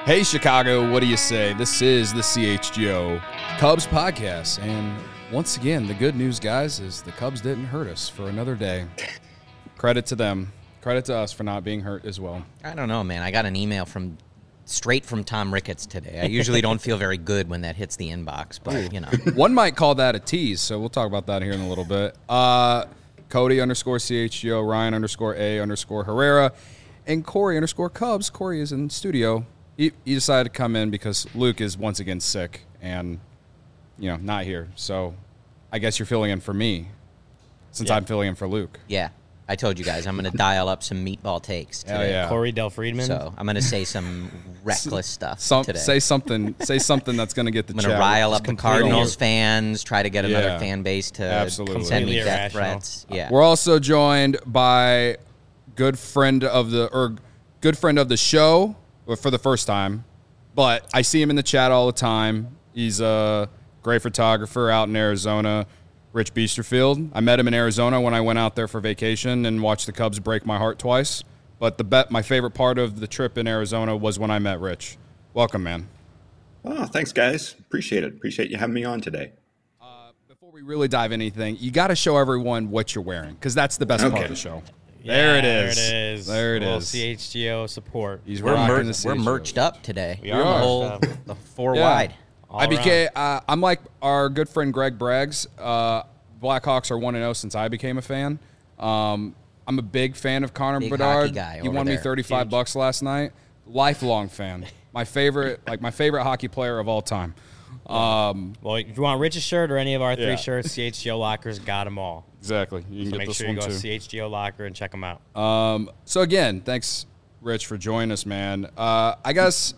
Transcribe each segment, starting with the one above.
Hey, Chicago, what do you say? This is the CHGO Cubs podcast. And once again, the good news, guys, is the Cubs didn't hurt us for another day. Credit to them. Credit to us for not being hurt as well. I don't know, man. I got an email straight from Tom Ricketts today. I usually don't feel very good when that hits the inbox, but, you know. One might call that a tease, so we'll talk about that here in a little bit. Cody _CHGO, Ryan _A _Herrera, and Corey _Cubs. Corey is in studio. He decided to come in because Luke is once again sick and, not here. So I guess you're filling in for me since I'm filling in for Luke. Yeah. I told you guys I'm going to dial up some meatball takes today. Hell yeah. Corey Del Friedman. So I'm going to say some reckless stuff today. Say something that's going to get the I'm chat. going to rile up the Cardinals fans, try to get another fan base to send me Completely death irrational. threats. Yeah. We're also joined by good friend of the show for the first time, but I see him in the chat all the time. He's a great photographer out in Arizona, Rich Biesterfield. I met him in Arizona when I went out there for vacation and watched the Cubs break my heart twice. But my favorite part of the trip in Arizona was when I met Rich. Welcome, man. Oh, thanks, guys. Appreciate it. Appreciate you having me on today. Before we really dive into anything, you got to show everyone what you're wearing because that's the best part of the show. There it is. There it is. CHGO support. He's We're rocking the we're CHGO. merched up today. We are The merched whole up. the four Yeah. wide. All I'm like our good friend Greg Braggs. Blackhawks are 1-0 since I became a fan. I'm a big fan of Connor Big Bedard. hockey guy He over won me there. $35 last night. Lifelong fan. My favorite hockey player of all time. Well, if you want Rich's shirt or any of our three Yeah. shirts, CHGO Lockers got them all. Exactly. You can So get make this sure one you go too. to CHGO Locker and check them out. So again, thanks, Rich, for joining us, man. I guess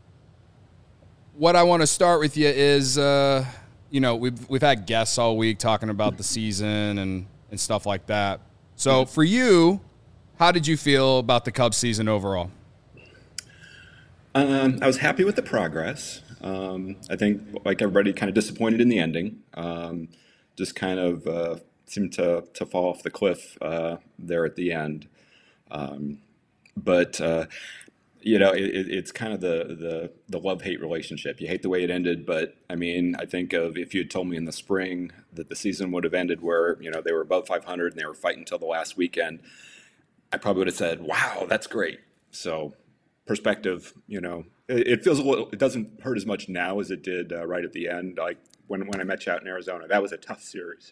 what I want to start with you is, we've had guests all week talking about the season and stuff like that. So for you, how did you feel about the Cubs season overall? I was happy with the progress. I think, like everybody, kind of disappointed in the ending. Just kind of seemed to fall off the cliff there at the end. But it's kind of the love-hate relationship. You hate the way it ended, but I mean, I think of if you had told me in the spring that the season would have ended where, they were above 500 and they were fighting until the last weekend, I probably would have said, wow, that's great. So perspective, it feels it doesn't hurt as much now as it did right at the end. Like when I met you out in Arizona, that was a tough series.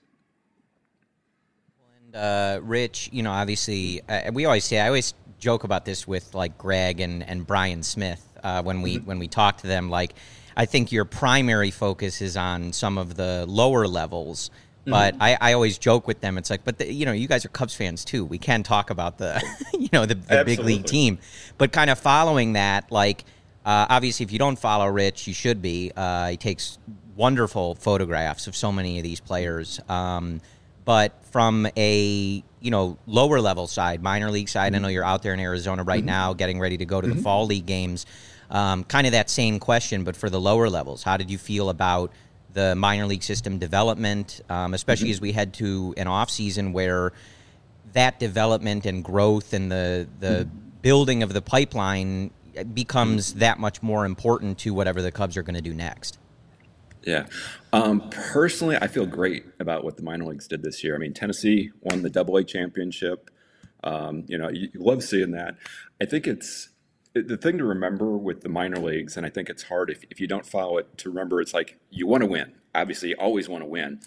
And Rich, obviously, I always joke about this with like Greg and Brian Smith when we talk to them. Like, I think your primary focus is on some of the lower levels, but I always joke with them. It's like, but you guys are Cubs fans too. We can talk about the the big league team, but kind of following that, like obviously, if you don't follow Rich, you should be. He takes wonderful photographs of so many of these players. But from a lower level side, minor league side, I know you're out there in Arizona right now, getting ready to go to the fall league games. Kind of that same question, but for the lower levels, how did you feel about the minor league system development, especially as we head to an off season where that development and growth and the building of the pipeline becomes that much more important to whatever the Cubs are going to do next? Yeah. Personally, I feel great about what the minor leagues did this year. I mean, Tennessee won the AA championship. You love seeing that. I think it's the thing to remember with the minor leagues, and I think it's hard if you don't follow it to remember. It's like you want to win. Obviously, you always want to win.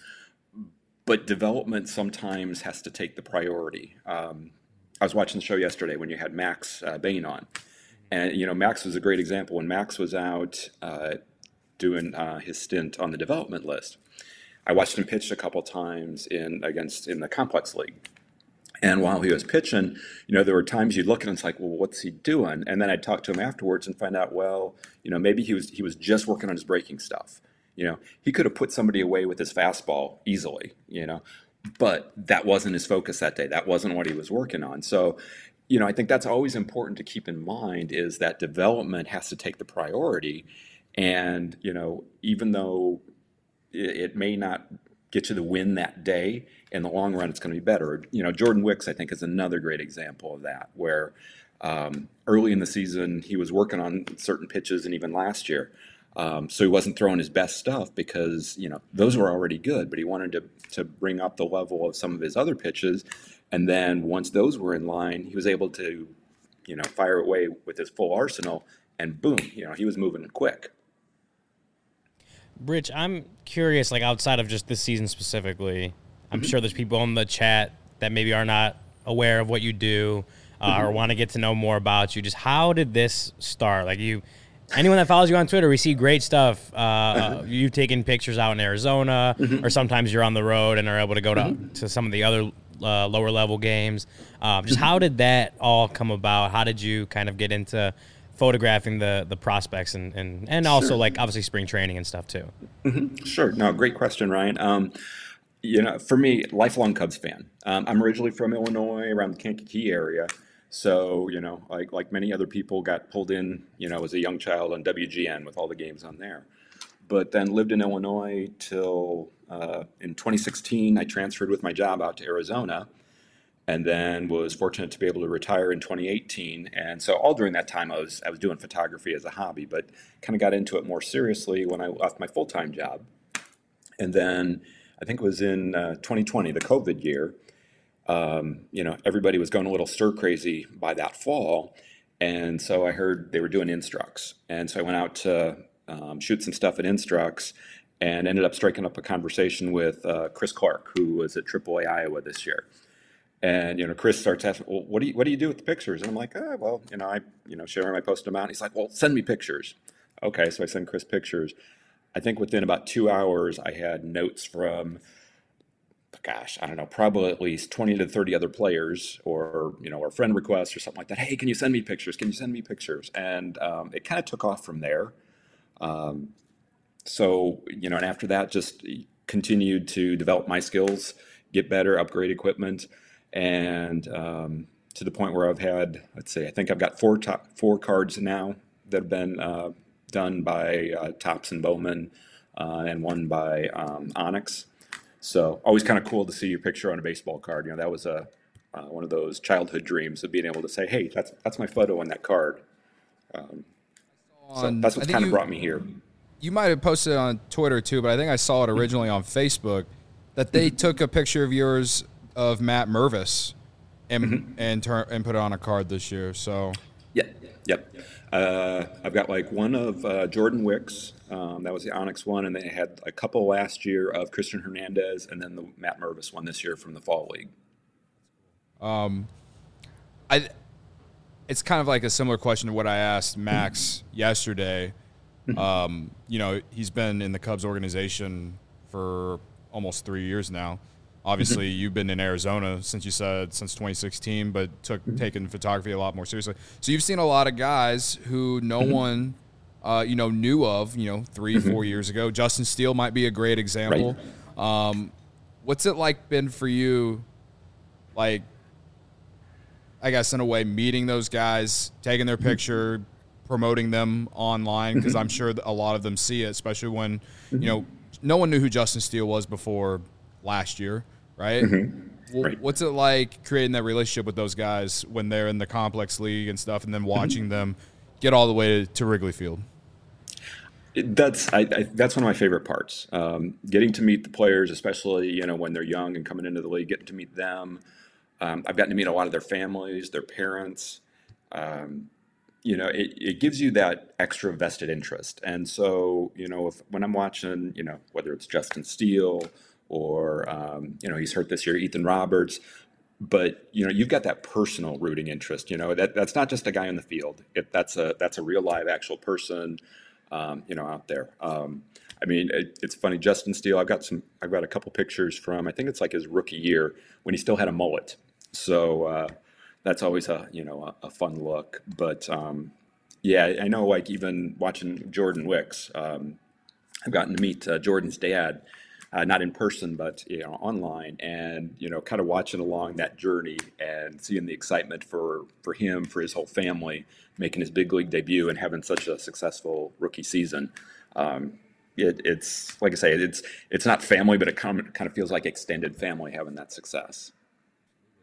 But development sometimes has to take the priority. I was watching the show yesterday when you had Max Bain on. And, Max was a great example. When Max was out doing his stint on the development list, I watched him pitch a couple times in the complex league. And while he was pitching, there were times you'd look at him and it's like, well, what's he doing? And then I'd talk to him afterwards and find out, well, maybe he was just working on his breaking stuff. He could have put somebody away with his fastball easily, but that wasn't his focus that day. That wasn't what he was working on. So, I think that's always important to keep in mind is that development has to take the priority. And, even though it may not get you the win that day, in the long run, it's going to be better. Jordan Wicks, I think, is another great example of that, where Early in the season, he was working on certain pitches, and even last year. So he wasn't throwing his best stuff because, those were already good, but he wanted to bring up the level of some of his other pitches. And then once those were in line, he was able to, fire away with his full arsenal, and boom, he was moving quick. Rich, I'm curious, like outside of just this season specifically, I'm sure there's people in the chat that maybe are not aware of what you do or want to get to know more about you. Just how did this start? Like anyone that follows you on Twitter, we see great stuff. You've taken pictures out in Arizona, or sometimes you're on the road and are able to go to some of the other lower level games. Just how did that all come about? How did you kind of get into photographing the prospects and also like obviously spring training and stuff too? Sure. No, great question, Ryan. For me, lifelong Cubs fan. I'm originally from Illinois, around the Kankakee area. So, like many other people, got pulled in, as a young child on WGN with all the games on there. But then lived in Illinois till in 2016, I transferred with my job out to Arizona, and then was fortunate to be able to retire in 2018. And so all during that time, I was doing photography as a hobby, but kind of got into it more seriously when I left my full-time job. And then I think it was in 2020, the COVID year. Everybody was going a little stir crazy by that fall. And so I heard they were doing Instructs. And so I went out to shoot some stuff at Instructs and ended up striking up a conversation with Chris Clark, who was at AAA Iowa this year. And, Chris starts asking, well, what do you do with the pictures? And I'm like, I share them, I post them out. And he's like, well, send me pictures. Okay. So I send Chris pictures. I think within about 2 hours, I had notes from, I don't know, probably at least 20 to 30 other players or friend requests or something like that. Hey, can you send me pictures? Can you send me pictures? And it kind of took off from there. So, and after that, just continued to develop my skills, get better, upgrade equipment. And to the point where I've had, I think I've got four cards now that have been done by Topps and Bowman and one by Onyx. So always kind of cool to see your picture on a baseball card. That was one of those childhood dreams of being able to say, hey, that's my photo on that card. So that's what kind of brought me here. You might have posted it on Twitter too, but I think I saw it originally on Facebook that they took a picture of yours of Matt Mervis and put it on a card this year. So Yep. I've got like one of Jordan Wicks. That was the Onyx one, and they had a couple last year of Christian Hernandez, and then the Matt Mervis one this year from the Fall League. It's kind of like a similar question to what I asked Max yesterday. He's been in the Cubs organization for almost 3 years now. Obviously, you've been in Arizona since 2016, but taken photography a lot more seriously. So you've seen a lot of guys who no one, knew of, 3-4 years ago. Justin Steele might be a great example. Right. What's it been for you, I guess in a way, meeting those guys, taking their picture, promoting them online? Because I'm sure a lot of them see it, especially when, no one knew who Justin Steele was before last year. Right? Right. What's it like creating that relationship with those guys when they're in the complex league and stuff, and then watching them get all the way to Wrigley Field? That's one of my favorite parts. Getting to meet the players, especially when they're young and coming into the league, getting to meet them. I've gotten to meet a lot of their families, their parents. It gives you that extra vested interest. And so, when I'm watching, whether it's Justin Steele or, he's hurt this year, Ethan Roberts, but, you've got that personal rooting interest, that's not just a guy on the field. That's a real live actual person, out there. It's funny, Justin Steele, I've got a couple pictures from, I think it's his rookie year when he still had a mullet. So, that's always a fun look, but, I know even watching Jordan Wicks, I've gotten to meet Jordan's dad, not in person, but online, and kind of watching along that journey and seeing the excitement for him, for his whole family, making his big league debut and having such a successful rookie season. It's like I say, it's not family, but it kind of feels like extended family having that success.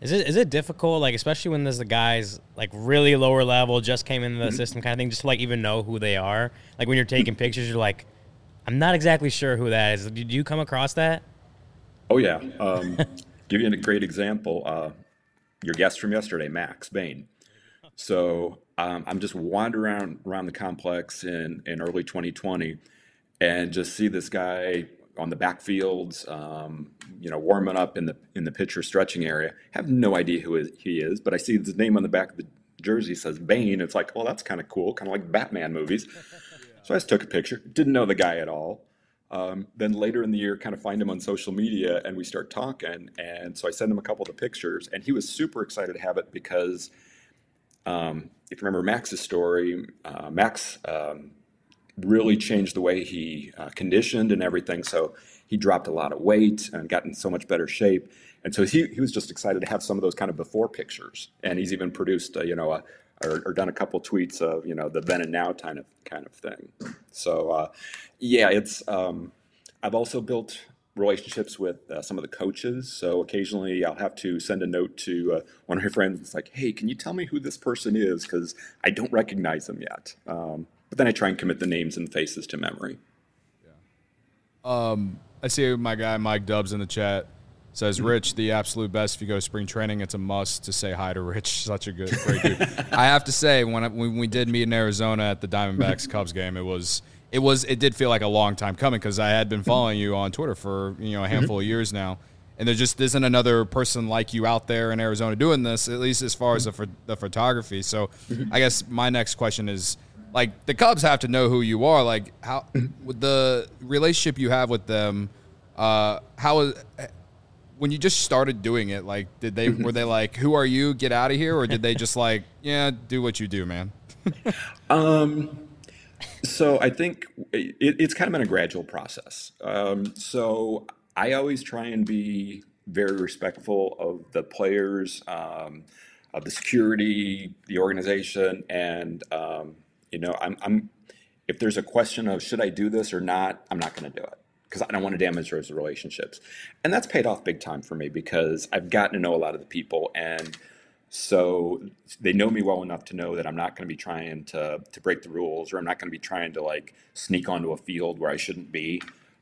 Is it difficult, like, especially when there's the guys, like, really lower level, just came into the system kind of thing, just to, like, even know who they are? Like, when you're taking pictures, you're like, I'm not exactly sure who that is. Did you come across that? Oh, yeah. Give you a great example. Your guest from yesterday, Max Bain. So I'm just wandering around the complex in early 2020 and just see this guy on the backfields, warming up in the pitcher stretching area. Have no idea who he is, but I see his name on the back of the jersey says Bane. It's like, oh, that's kind of cool, kind of like Batman movies. So I just took a picture. Didn't know the guy at all. Then later in the year, kind of find him on social media, and we start talking. And so I send him a couple of the pictures, and he was super excited to have it because if you remember Max's story, Max really changed the way he conditioned and everything. So he dropped a lot of weight and got in so much better shape. And so he was just excited to have some of those kind of before pictures. And he's even produced, or done a couple tweets of, the then and now kind of thing. So, it's, I've also built relationships with some of the coaches. So occasionally I'll have to send a note to one of my friends. It's like, hey, can you tell me who this person is? Because I don't recognize them yet. But then I try and commit the names and faces to memory. I see my guy Mike Dubs in the chat says, Rich, the absolute best. If you go to spring training, it's a must to say hi to Rich. Such a great dude. I have to say, when we did meet in Arizona at the Diamondbacks Cubs game, it did feel like a long time coming because I had been following you on Twitter for a handful of years now, and there just isn't another person like you out there in Arizona doing this, at least as far as the photography. So I guess my next question is, like, the Cubs have to know who you are. Like, how with the relationship you have with them, when you just started doing it, like, were they like, who are you? Get out of here, or did they just like, yeah, do what you do, man? So I think it's kind of been a gradual process. So I always try and be very respectful of the players, of the security, the organization, and I'm if there's a question of should I do this or not, I'm not going to do it because I don't want to damage those relationships. And that's paid off big time for me because I've gotten to know a lot of the people, and so they know me well enough to know that I'm not going to be trying to break the rules, or I'm not going to be trying to like sneak onto a field where I shouldn't be.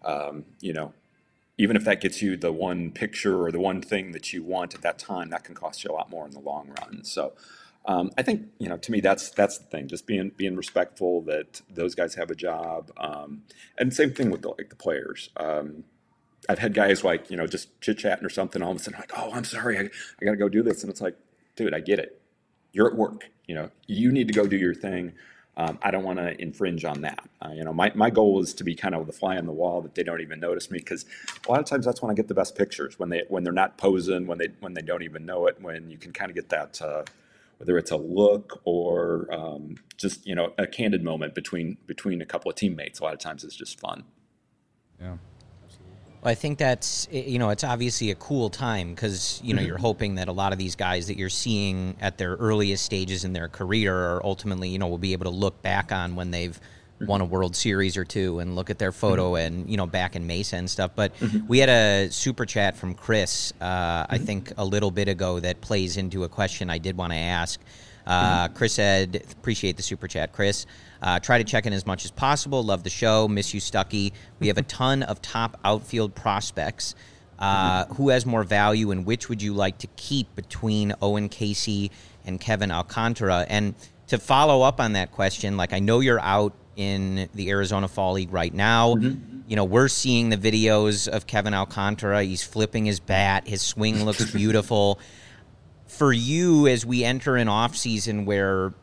Even if that gets you the one picture or the one thing that you want at that time, that can cost you a lot more in the long run. So I think, to me, that's the thing, just being respectful that those guys have a job. And same thing with the players. I've had guys like, just chit chatting or something, all of a sudden like, oh, I'm sorry, I got to go do this. And it's like, dude, I get it. You're at work, you need to go do your thing. I don't want to infringe on that. My goal is to be kind of the fly on the wall that they don't even notice me, because a lot of times that's when I get the best pictures, when they're not posing, when they don't even know it, when you can kind of get that, whether it's a look or just a candid moment between a couple of teammates. A lot of times it's just fun. Yeah. Well, I think that's, it's obviously a cool time because, you're hoping that a lot of these guys that you're seeing at their earliest stages in their career are ultimately, will be able to look back on when they've won a World Series or two and look at their photo and, back in Mesa and stuff. But we had a super chat from Chris, I think a little bit ago, that plays into a question I did want to ask. Chris said, appreciate the super chat, Chris. Try to check in as much as possible. Love the show. Miss you, Stuckey. We have a ton of top outfield prospects. Who has more value, and which would you like to keep between Owen Casey and Kevin Alcantara? And to follow up on that question, like, I know you're out in the Arizona Fall League right now. We're seeing the videos of Kevin Alcantara. He's flipping his bat. His swing looks beautiful. For you, as we enter an offseason where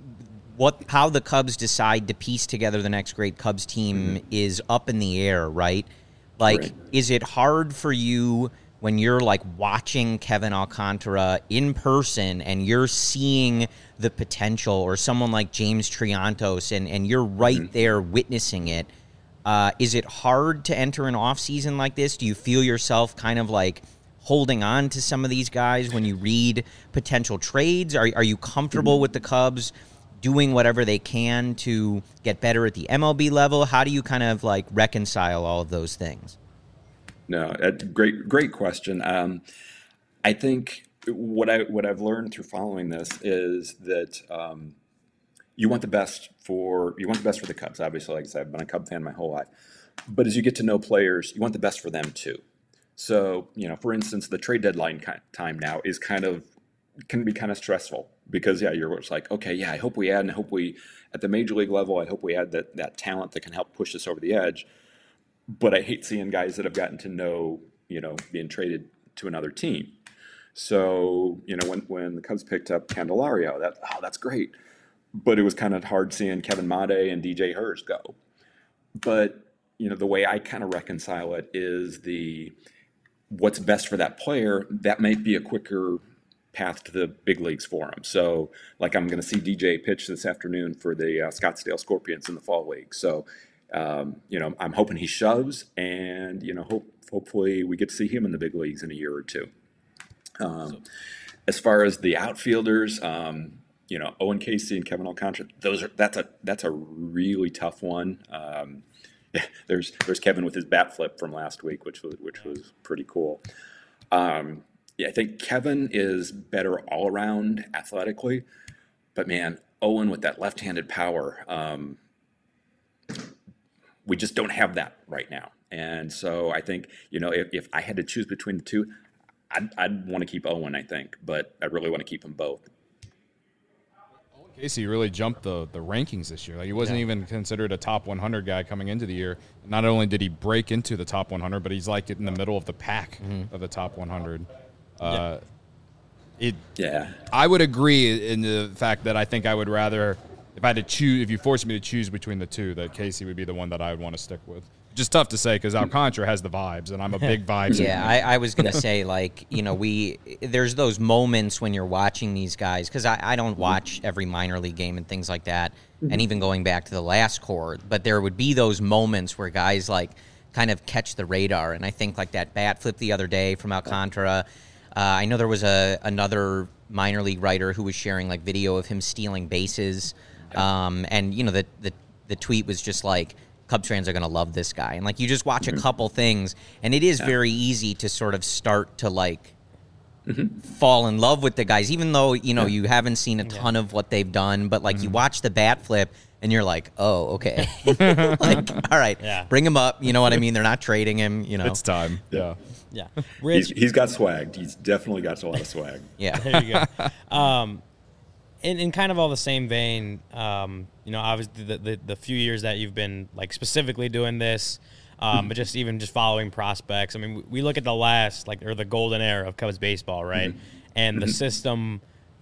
how the Cubs decide to piece together the next great Cubs team is up in the air, right? Like, right. Is it hard for you when you're like watching Kevin Alcantara in person and you're seeing the potential, or someone like James Triantos and you're right there witnessing it? Is it hard to enter an offseason like this? Do you feel yourself kind of like holding on to some of these guys when you read potential trades? Are you comfortable with the Cubs doing whatever they can to get better at the MLB level? How do you kind of like reconcile all of those things? No, great question. I think what I've learned through following this is that you want the best for the Cubs. Obviously, like I said, I've been a Cub fan my whole life. But as you get to know players, you want the best for them too. So, for instance, the trade deadline time now can be kind of stressful because you're just like, okay, yeah, I hope we add, and I hope we at the major league level, I hope we add that talent that can help push us over the edge. But I hate seeing guys that have gotten to know, being traded to another team. So, when the Cubs picked up Candelario, that's great. But it was kind of hard seeing Kevin Made and DJ Hurst go. But, the way I kind of reconcile it is what's best for that player, that might be a quicker path to the big leagues for him. So, like, I'm going to see DJ pitch this afternoon for the Scottsdale Scorpions in the fall league. So, I'm hoping he shoves, and hopefully we get to see him in the big leagues in a year or two. As far as the outfielders, Owen Casey and Kevin Alcantara, that's a really tough one. There's Kevin with his bat flip from last week, which was pretty cool. I think Kevin is better all around athletically, but man, Owen with that left-handed power, we just don't have that right now. And so I think, if I had to choose between the two, I'd want to keep Owen, I think, but I really want to keep them both. Casey really jumped the rankings this year. Like, he wasn't even considered a top 100 guy coming into the year. Not only did he break into the top 100, but he's like in the middle of the pack of the top 100. I would agree in the fact that I think I would rather, if I had to choose, if you forced me to choose between the two, that Casey would be the one that I would want to stick with. Just tough to say because Alcantara has the vibes, and I'm a big vibes. Yeah, I was going to say, there's those moments when you're watching these guys, because I don't watch every minor league game and things like that, and even going back to the last core, but there would be those moments where guys, kind of catch the radar, and I think, that bat flip the other day from Alcantara. I know there was another minor league writer who was sharing, video of him stealing bases, and, the tweet was just Cubs fans are going to love this guy. And, you just watch a couple things, and it is very easy to sort of start to, fall in love with the guys, even though, you haven't seen a ton of what they've done. But, you watch the bat flip, and you're like, oh, okay. All right, bring him up. You know what I mean? They're not trading him, It's time. Yeah. Yeah. Rich, he's got swag. He's definitely got a lot of swag. Yeah. There you go. In kind of all the same vein, obviously the few years that you've been specifically doing this, but just following prospects. I mean, we look at the last or the golden era of Cubs baseball, right? And the system,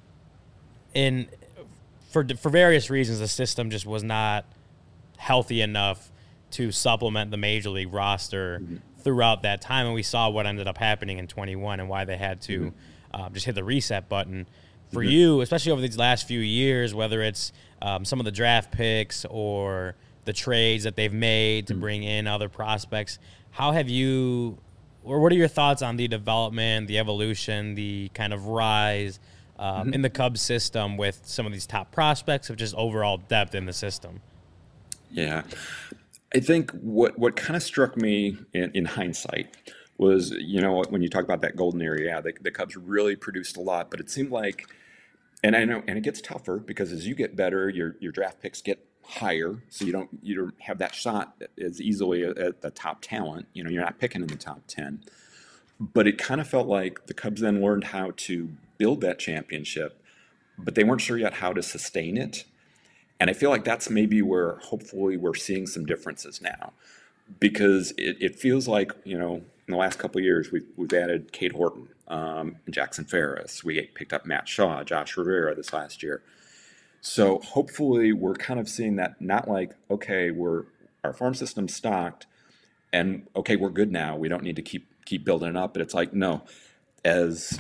for various reasons, the system just was not healthy enough to supplement the major league roster throughout that time, and we saw what ended up happening in 21 and why they had to just hit the reset button. For you, especially over these last few years, whether it's some of the draft picks or the trades that they've made to bring in other prospects, how have you, or what are your thoughts on the development, the evolution, the kind of rise in the Cubs system with some of these top prospects, of just overall depth in the system? Yeah. I think what kind of struck me in hindsight was, when you talk about that golden era, the Cubs really produced a lot, but it seemed like, and I know, and it gets tougher because as you get better, your draft picks get higher, so you don't have that shot as easily at the top talent. You're not picking in the top 10. But it kind of felt like the Cubs then learned how to build that championship, but they weren't sure yet how to sustain it. And I feel like that's maybe where hopefully we're seeing some differences now, because it feels like, in the last couple of years, we've added Cade Horton and Jackson Ferris. We picked up Matt Shaw, Josh Rivera this last year. So hopefully we're kind of seeing that, not like, okay, our farm system's stocked and okay, we're good now. We don't need to keep building it up. But it's like, no, as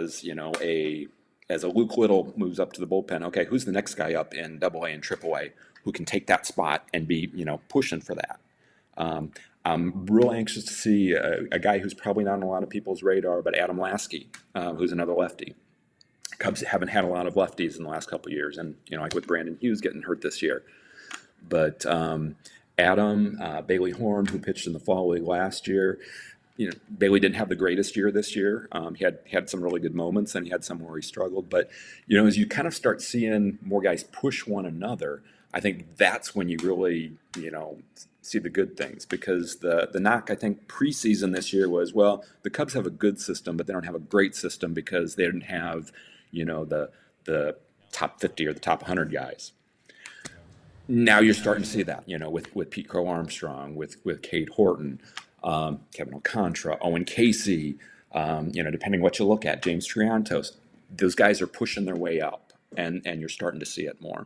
a Luke Little moves up to the bullpen, okay, who's the next guy up in AA and AAA who can take that spot and be, pushing for that? I'm real anxious to see a guy who's probably not on a lot of people's radar, but Adam Lasky, who's another lefty. Cubs haven't had a lot of lefties in the last couple of years, and like with Brandon Hughes getting hurt this year. But Adam, Bailey Horn, who pitched in the fall league last year, Bailey didn't have the greatest year this year. He had some really good moments, and he had some where he struggled. But as you kind of start seeing more guys push one another, I think that's when you really see the good things. Because the knock, I think, preseason this year was, well, the Cubs have a good system, but they don't have a great system because they didn't have the top 50 or the top 100 guys. Now you're starting to see that, with Pete Crow Armstrong, with Cade Horton, Kevin Alcantara, Owen Casey, depending what you look at, James Triantos. Those guys are pushing their way up, and you're starting to see it more.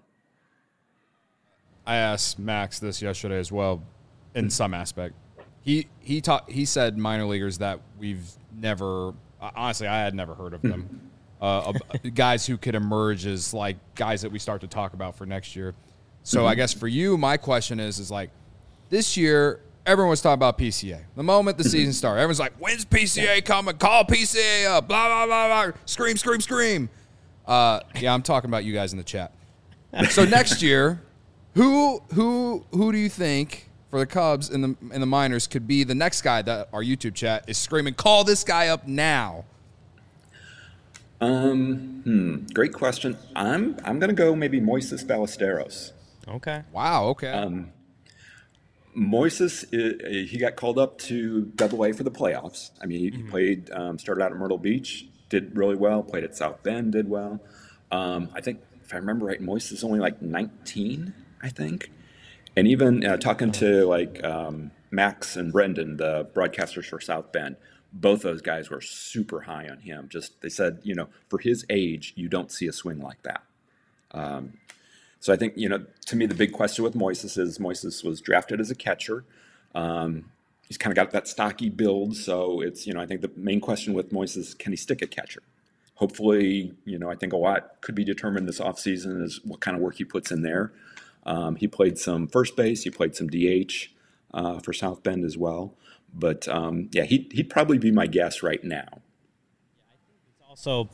I asked Max this yesterday as well, in some aspect. He said minor leaguers that we've never, honestly, I had never heard of them. Guys who could emerge as like guys that we start to talk about for next year. So I guess for you, my question is like, this year, everyone was talking about PCA. The moment the season started, everyone's like, when's PCA coming? Call PCA up, blah, blah, blah, blah. Scream, scream, scream. Yeah, I'm talking about you guys in the chat. So next year, who do you think for the Cubs in the minors could be the next guy that our YouTube chat is screaming, call this guy up now? Great question. I'm gonna go maybe Moises Ballesteros. Okay. Wow. Okay. Moises, he got called up to AA for the playoffs. I mean, he played, started out at Myrtle Beach, did really well. Played at South Bend, did well. I think if I remember right, Moises is only like 19, I think. And even talking to like Max and Brendan, the broadcasters for South Bend, both those guys were super high on him. They said, for his age, you don't see a swing like that. So I think, to me, the big question with Moises is Moises was drafted as a catcher. He's kind of got that stocky build. So it's, I think the main question with Moises is, can he stick at catcher? Hopefully, I think a lot could be determined this offseason is what kind of work he puts in there. He played some first base. He played some DH for South Bend as well. But, he'd probably be my guess right now. It's also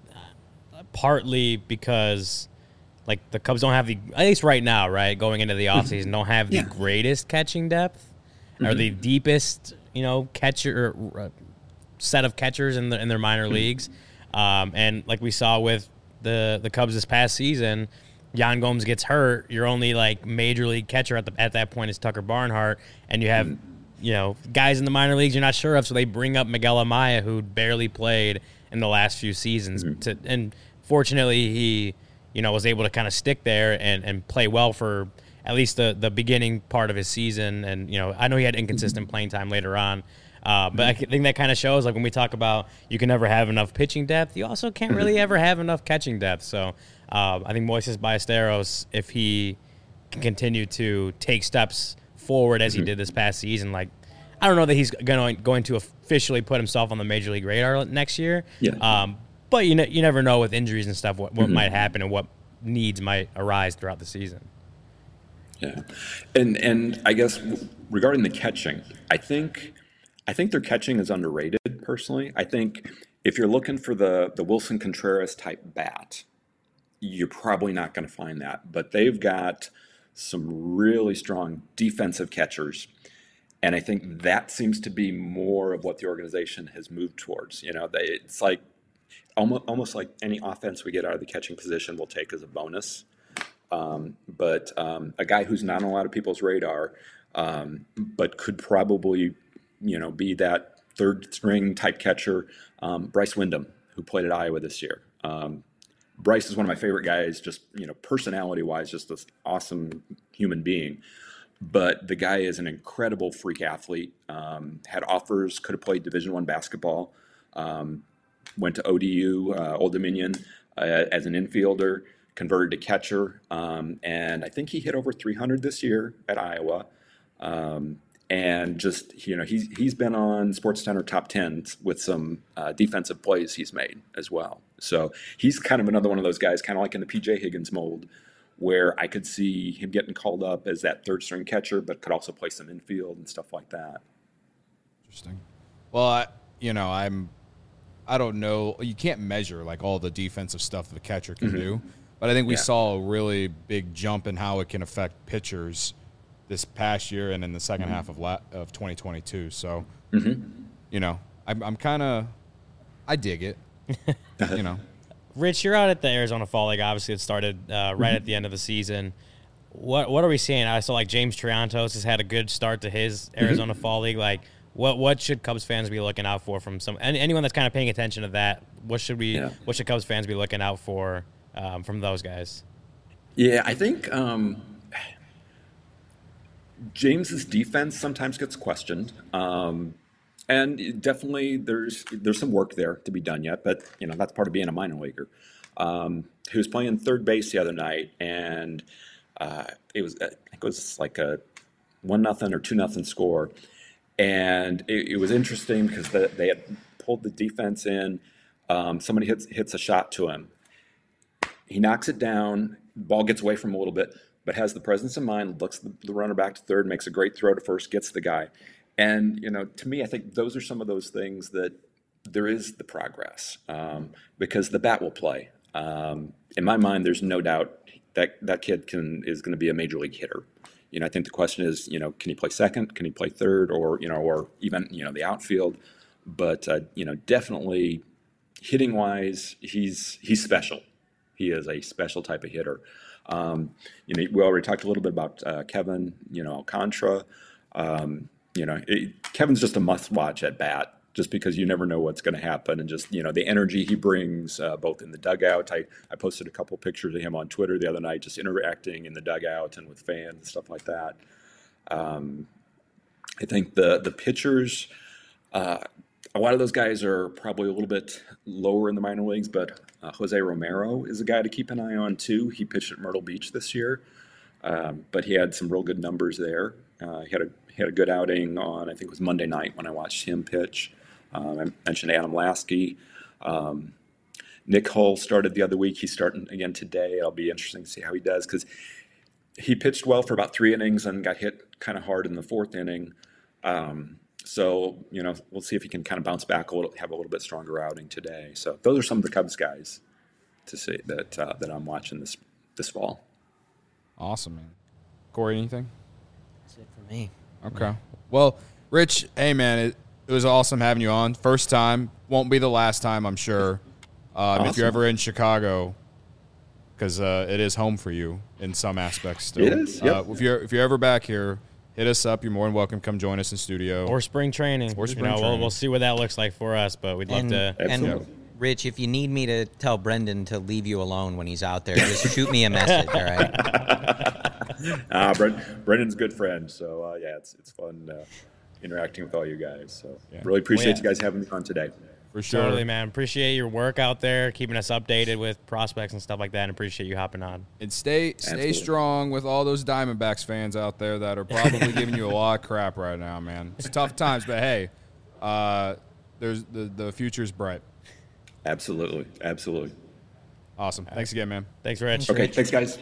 partly because, like, the Cubs don't have at least right now, right, going into the offseason, don't have the greatest catching depth or the deepest, catcher set of catchers in their minor leagues. And like we saw with the Cubs this past season, Yan Gomes gets hurt. Your only, like, major league catcher at that point is Tucker Barnhart, and you have guys in the minor leagues you're not sure of, so they bring up Miguel Amaya, who barely played in the last few seasons. And fortunately, he, was able to kind of stick there and play well for at least the beginning part of his season. And, I know he had inconsistent playing time later on. But I think that kind of shows, like, when we talk about you can never have enough pitching depth, you also can't really ever have enough catching depth. So I think Moises Ballesteros, if he can continue to take steps forward as he did this past season, like, I don't know that he's going to officially put himself on the major league radar next year. Yeah. But you never know with injuries and stuff what might happen and what needs might arise throughout the season. Yeah, and I guess regarding the catching, I think their catching is underrated. Personally, I think if you're looking for the Wilson Contreras type bat, you're probably not going to find that. But they've got some really strong defensive catchers. And I think that seems to be more of what the organization has moved towards. It's like almost like any offense we get out of the catching position we'll take as a bonus. But a guy who's not on a lot of people's radar, but could probably, be that third string type catcher, Bryce Windham, who played at Iowa this year. Bryce is one of my favorite guys, just, personality-wise, just this awesome human being. But the guy is an incredible freak athlete, had offers, could have played Division I basketball, went to ODU, Old Dominion, as an infielder, converted to catcher, and I think he hit over 300 this year at Iowa. And just, he's been on SportsCenter top 10s with some defensive plays he's made as well. So he's kind of another one of those guys, kind of like in the P.J. Higgins mold, where I could see him getting called up as that third string catcher, but could also play some infield and stuff like that. Interesting. Well, I don't know. You can't measure like all the defensive stuff the catcher can do, but I think we saw a really big jump in how it can affect pitchers this past year and in the second half of 2022. So I'm kind of, I dig it, Rich, you're out at the Arizona Fall League. Obviously, it started right at the end of the season. What are we seeing? I saw like James Triantos has had a good start to his Arizona Fall League. Like, what should Cubs fans be looking out for from anyone that's kind of paying attention to that? What should Cubs fans be looking out for from those guys? Yeah, I think James's defense sometimes gets questioned, and definitely there's some work there to be done yet. But that's part of being a minor leaguer. He was playing third base the other night, and it was like a 1-0 or 2-0 score, and it was interesting because they had pulled the defense in. Somebody hits a shot to him. He knocks it down. The ball gets away from him a little bit, but has the presence of mind, looks the runner back to third, makes a great throw to first, gets the guy. And, to me, I think those are some of those things that there is the progress because the bat will play. In my mind, there's no doubt that kid is going to be a major league hitter. I think the question is, can he play second? Can he play third? Or even, the outfield? But, definitely hitting wise, he's special. He is a special type of hitter. We already talked a little bit about Kevin, Alcantara. Kevin's just a must-watch at bat, just because you never know what's going to happen, and just the energy he brings both in the dugout. I posted a couple pictures of him on Twitter the other night, just interacting in the dugout and with fans and stuff like that. I think the pitchers. A lot of those guys are probably a little bit lower in the minor leagues, but Jose Romero is a guy to keep an eye on too. He pitched at Myrtle Beach this year, but he had some real good numbers there. He had a good outing on, I think it was Monday night when I watched him pitch. I mentioned Adam Lasky. Nick Hull started the other week. He's starting again today. It'll be interesting to see how he does because he pitched well for about 3 innings and got hit kind of hard in the 4th inning. So, we'll see if he can kind of bounce back a little, have a little bit stronger outing today. So those are some of the Cubs guys to see that I'm watching this fall. Awesome, man. Corey, anything? That's it for me. Okay. Well, Rich, hey, man, it was awesome having you on. First time. Won't be the last time, I'm sure. Awesome. If you're ever in Chicago, because it is home for you in some aspects still. It is, yep. If you're ever back here, hit us up. You're more than welcome. Come join us in studio. Or spring training. We'll see what that looks like for us, but we'd love to. And Rich, if you need me to tell Brendan to leave you alone when he's out there, just shoot me a message, all right? Brendan's a good friend, so it's fun interacting with all you guys. So really appreciate you guys having me on today. For sure. Totally, man. Appreciate your work out there, keeping us updated with prospects and stuff like that, and appreciate you hopping on. And stay strong with all those Diamondbacks fans out there that are probably giving you a lot of crap right now, man. It's tough times, but hey, there's the future's bright. Absolutely. Awesome. Thanks again, man. Thanks, Rich. Okay, thanks, guys.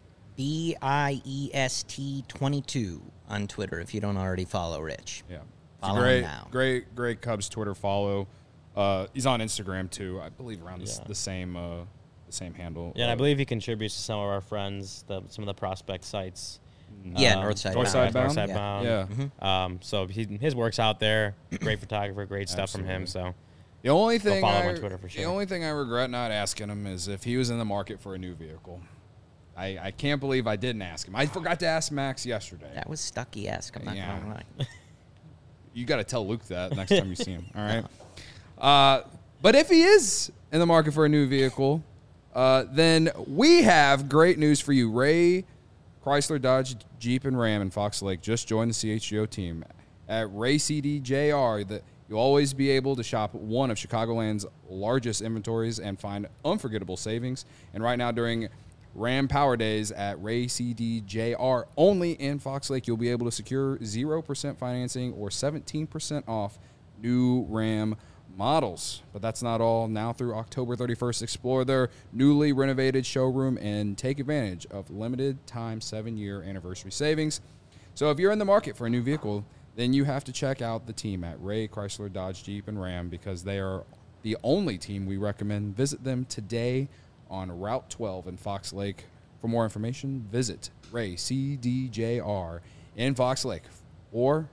BIEST22 on Twitter if you don't already follow Rich. Yeah. Follow him now. Great Cubs Twitter follow. He's on Instagram too, I believe, around the same handle. Yeah, and I believe he contributes to some of our friends, some of the prospect sites. Northside Bound. Yeah. Mm-hmm. So his work's out there. Great photographer, great stuff from him. So the only thing follow him on Twitter for sure. The only thing I regret not asking him is if he was in the market for a new vehicle. I can't believe I didn't ask him. I forgot to ask Max yesterday. That was Stucky-esque. I'm not going to lie. You got to tell Luke that next time you see him. All right. But if he is in the market for a new vehicle, then we have great news for you. Ray Chrysler, Dodge, Jeep, and Ram in Fox Lake just joined the CHGO team. At Ray CDJR, you'll always be able to shop one of Chicagoland's largest inventories and find unforgettable savings. And right now during Ram Power Days at Ray CDJR, only in Fox Lake, you'll be able to secure 0% financing or 17% off new Ram models. But that's not all. Now through October 31st, explore their newly renovated showroom and take advantage of limited time 7-year anniversary savings. So if you're in the market for a new vehicle, then you have to check out the team at Ray Chrysler, Dodge, Jeep, and Ram because they are the only team we recommend. Visit them today on Route 12 in Fox Lake. For more information, visit Ray CDJR in Fox Lake. or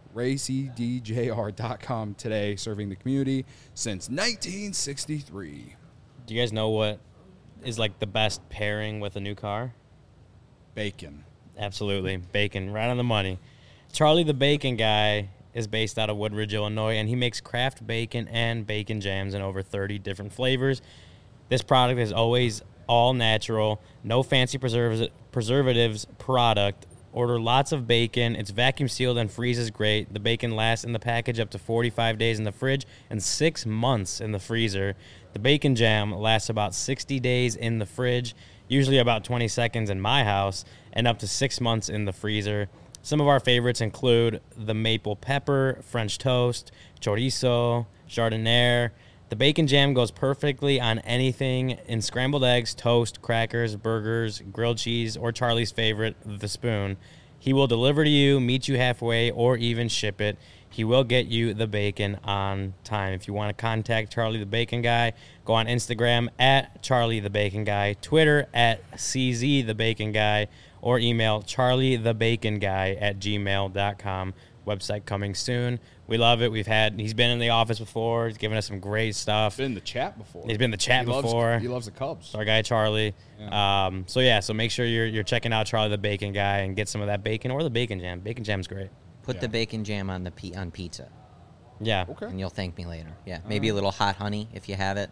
raycdjr.com today, serving the community since 1963. Do you guys know what is like the best pairing with a new car? Bacon. Absolutely. Bacon, right on the money. Charlie the Bacon Guy is based out of Woodridge, Illinois, and he makes craft bacon and bacon jams in over 30 different flavors. This product is always all natural, no fancy preservatives product. Order lots of bacon. It's vacuum sealed and freezes great. The bacon lasts in the package up to 45 days in the fridge and 6 months in the freezer. The bacon jam lasts about 60 days in the fridge, usually about 20 seconds in my house, and up to 6 months in the freezer. Some of our favorites include the maple pepper, French toast, chorizo, jardiniere. The bacon jam goes perfectly on anything in scrambled eggs, toast, crackers, burgers, grilled cheese, or Charlie's favorite, the spoon. He will deliver to you, meet you halfway, or even ship it. He will get you the bacon on time. If you want to contact Charlie the Bacon Guy, go on Instagram at Charlie the Bacon Guy, Twitter at CZ the Bacon Guy, or email charliethebaconguy@gmail.com. Website coming soon. We love it. He's been in the office before. He's given us some great stuff. Been in the chat before. He's been in the chat before. He loves the Cubs. Our guy Charlie. Yeah. So make sure you're checking out Charlie the Bacon Guy and get some of that bacon or the bacon jam. Bacon jam's great. Put the bacon jam on on pizza, Yeah. Okay. and you'll thank me later. Yeah, maybe a little hot honey if you have it.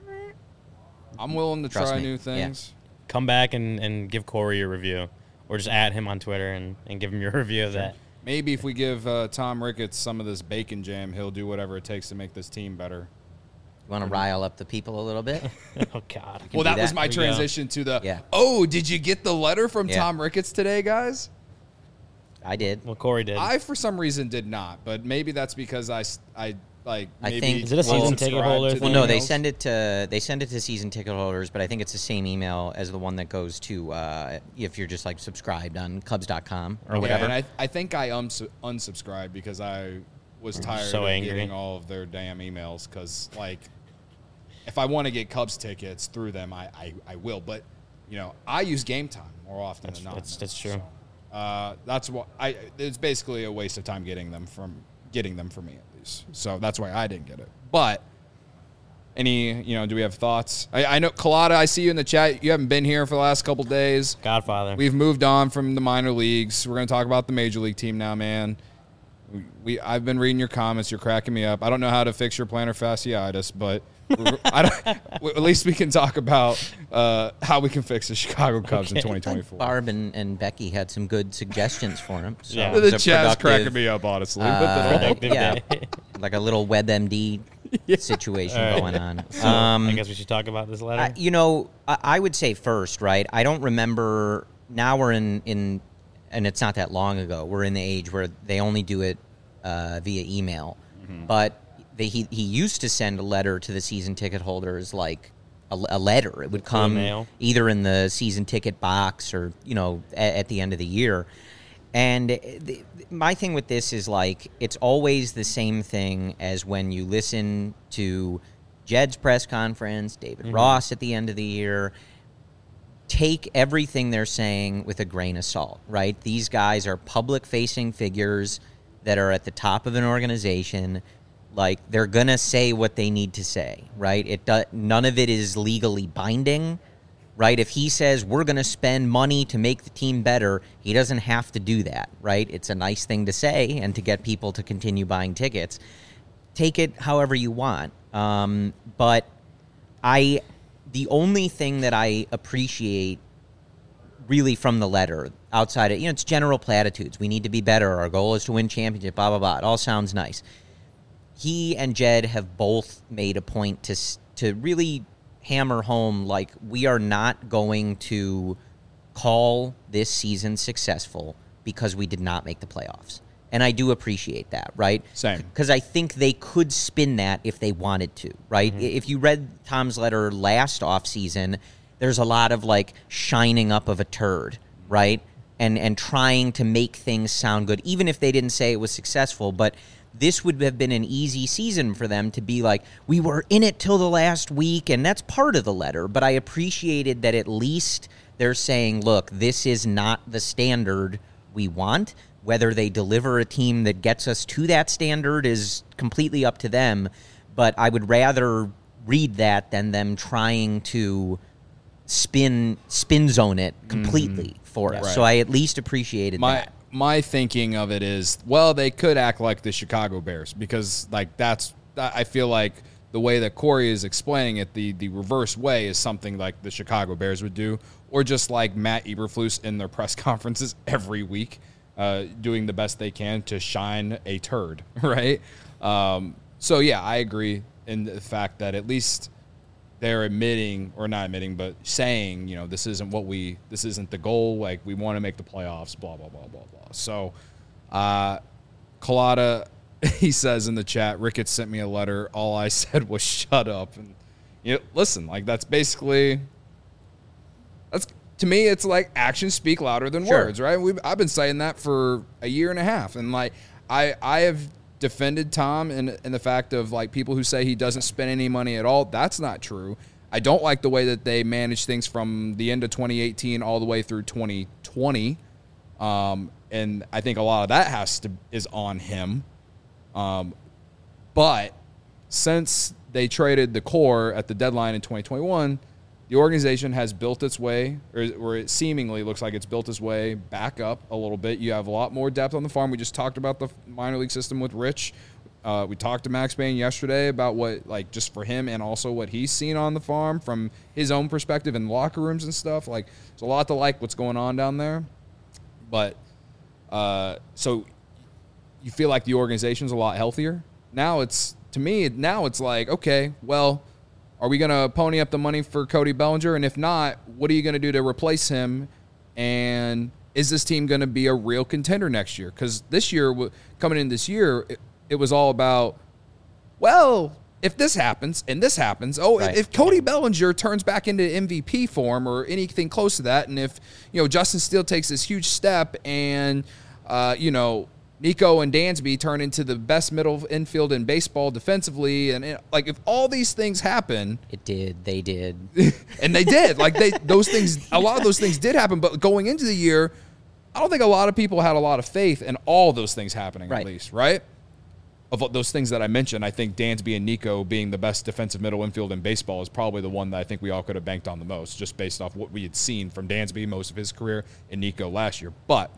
I'm willing to Trust try me. new things. Come back and give Corey your review, or just add him on Twitter and give him your review of that. Maybe if we give Tom Ricketts some of this bacon jam, he'll do whatever it takes to make this team better. You want to rile up the people a little bit? Oh God. can Well, do that was that. my There we go. transition to the, Yeah. oh, did you get the letter from Yeah. Tom Ricketts today, guys? I did. Well, Corey did. I, for some reason, did not, but maybe that's because I maybe think- Is it a season wasn't ticket subscribed holder to thing? the Well, no, they emails. send it to season ticket holders, but I think it's the same email as the one that goes to if you're just like subscribed on Cubs.com or Yeah, whatever. and I think I unsubscribed because I was tired so of angry. getting all of their damn emails. Because if I want to get Cubs tickets through them, I will. But I use Game Time more often than not. That's true. That's what it's basically a waste of time getting them for me at least. So that's why I didn't get it. But do we have thoughts? I know Colada, I see you in the chat. You haven't been here for the last couple days. Godfather. We've moved on from the minor leagues. We're going to talk about the major league team now, man. I've been reading your comments. You're cracking me up. I don't know how to fix your plantar fasciitis, but at least we can talk about how we can fix the Chicago Cubs in 2024. Barb and Becky had some good suggestions for him. So Yeah. it was The a chat's productive, cracking me up, honestly. But Productive yeah, day. like a little WebMD situation All right. going on. I guess we should talk about this letter. I would say first, right? I don't remember. Now we're in, and it's not that long ago. We're in the age where they only do it via email. But he used to send a letter to the season ticket holders, like a letter. It would come mail. either in the season ticket box or at the end of the year. And my thing with this is it's always the same thing as when you listen to Jed's press conference, David Ross at the end of the year. Take everything they're saying with a grain of salt, right? These guys are public-facing figures that are at the top of an organization. They're going to say what they need to say, right? None of it is legally binding, right? If he says we're going to spend money to make the team better, he doesn't have to do that, right? It's a nice thing to say and to get people to continue buying tickets. Take it however you want. But the only thing that I appreciate really from the letter outside of, it's general platitudes. We need to be better. Our goal is to win championship, blah, blah, blah. It all sounds nice. He and Jed have both made a point to really hammer home, we are not going to call this season successful because we did not make the playoffs. And I do appreciate that, right? Same. Because I think they could spin that if they wanted to, right? If you read Tom's letter last offseason, there's a lot of shining up of a turd, right? And trying to make things sound good, even if they didn't say it was successful. But this would have been an easy season for them to be we were in it till the last week, and that's part of the letter. But I appreciated that at least they're saying, look, this is not the standard we want. Whether they deliver a team that gets us to that standard is completely up to them. But I would rather read that than them trying to spin zone it completely for us. Right. So I at least appreciated that. My thinking of it is, well, they could act like the Chicago Bears because, like, I feel like the way that Corey is explaining it, the reverse way is something like the Chicago Bears would do, or just like Matt Eberflus in their press conferences every week, doing the best they can to shine a turd, right? So, yeah, I agree in the fact that at least they're admitting, or not admitting, but saying, this isn't the goal. Like, we want to make the playoffs, blah, blah, blah, blah, blah. So, Collada, he says in the chat, Ricketts sent me a letter. All I said was shut up. And, listen, like, that's basically, to me, it's like actions speak louder than words, right? I've been saying that for a year and a half. And, like, I have defended Tom in the fact of, like, people who say he doesn't spend any money at all. That's not true. I don't like the way that they manage things from the end of 2018 all the way through 2020. And I think a lot of that is on him. But since they traded the core at the deadline in 2021, the organization has built its way, or it seemingly looks like it's built its way back up a little bit. You have a lot more depth on the farm. We just talked about the minor league system with Rich. We talked to Max Bain yesterday about what, like, just for him and also what he's seen on the farm from his own perspective in locker rooms and stuff. Like, there's a lot to like what's going on down there. But so you feel like the organization's a lot healthier. Now it's like, okay, well, are we going to pony up the money for Cody Bellinger? And if not, what are you going to do to replace him? And is this team going to be a real contender next year? Because this year, coming in this year, it was all about, well, if this happens and this happens, Right. If Cody Bellinger turns back into MVP form or anything close to that, and if, Justin Steele takes this huge step and, Nico and Dansby turn into the best middle infield in baseball defensively, and like, if all these things happen, They did. and they did, like, a lot of those things did happen. But going into the year, I don't think a lot of people had a lot of faith in all those things happening. Right. At least, right? Of those things that I mentioned, I think Dansby and Nico being the best defensive middle infield in baseball is probably the one that I think we all could have banked on the most, just based off what we had seen from Dansby most of his career and Nico last year. But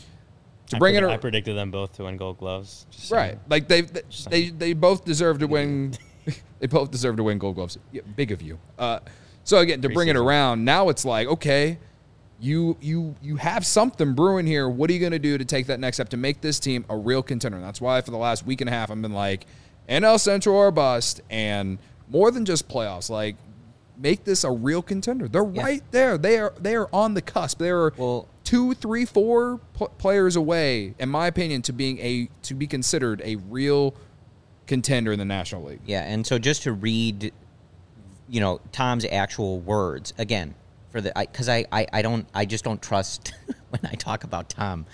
I predicted them both to win Gold Gloves. Right. Like, they both deserve to win. They both deserve to win Gold Gloves. Yeah, big of you. So again, to bring it around, now it's like, okay, you have something brewing here. What are you going to do to take that next step to make this team a real contender? And that's why for the last week and a half I've been like, NL Central or bust, and more than just playoffs. Like, make this a real contender. They're right there. They are on the cusp. They are 2, 3, 4 players away, in my opinion, to be considered a real contender in the National League. Yeah, and so just to read, Tom's actual words again, because I just don't trust when I talk about Tom.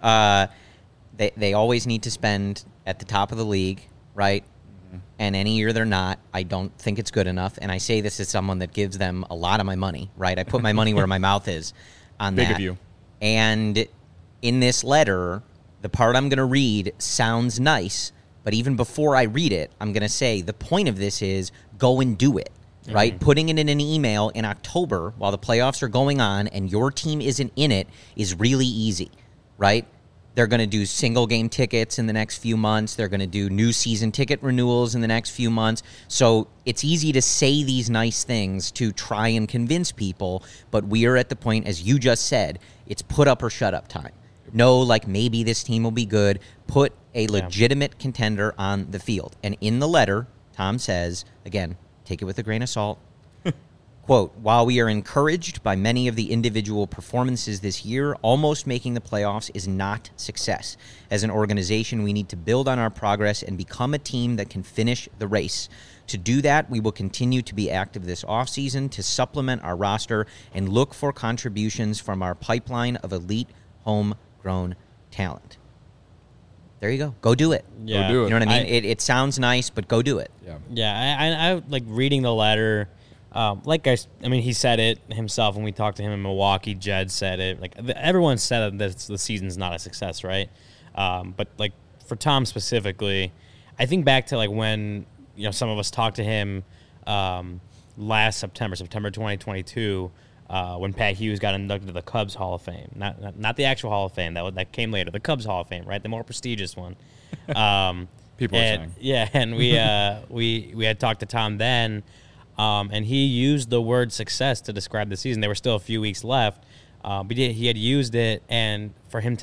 They always need to spend at the top of the league, right? Mm-hmm. And any year they're not, I don't think it's good enough. And I say this as someone that gives them a lot of my money, right? I put my money where my mouth is on that. Big of you. And in this letter, the part I'm going to read sounds nice, but even before I read it, I'm going to say the point of this is go and do it, right? Mm-hmm. Putting it in an email in October while the playoffs are going on and your team isn't in it is really easy, right? They're going to do single-game tickets in the next few months. They're going to do new season ticket renewals in the next few months. So it's easy to say these nice things to try and convince people, but we are at the point, as you just said, it's put up or shut up time. No, like, maybe this team will be good. Put a legitimate contender on the field. And in the letter, Tom says, again, take it with a grain of salt, quote, while we are encouraged by many of the individual performances this year, almost making the playoffs is not success. As an organization, we need to build on our progress and become a team that can finish the race. To do that, we will continue to be active this offseason to supplement our roster and look for contributions from our pipeline of elite homegrown talent. There you go. Go do it. Yeah. Go do it. You know what I mean? It sounds nice, but go do it. Yeah. Yeah, I like reading the letter. I mean, he said it himself when we talked to him in Milwaukee. Jed said it. Like, everyone said that the season's not a success, right? But, like, for Tom specifically, I think back to, like, when, some of us talked to him last September 2022, when Pat Hughes got inducted to the Cubs Hall of Fame. Not the actual Hall of Fame. That came later. The Cubs Hall of Fame, right? The more prestigious one. People are saying. Yeah, and we had talked to Tom then, and he used the word success to describe the season. There were still a few weeks left, but he had used it, and for him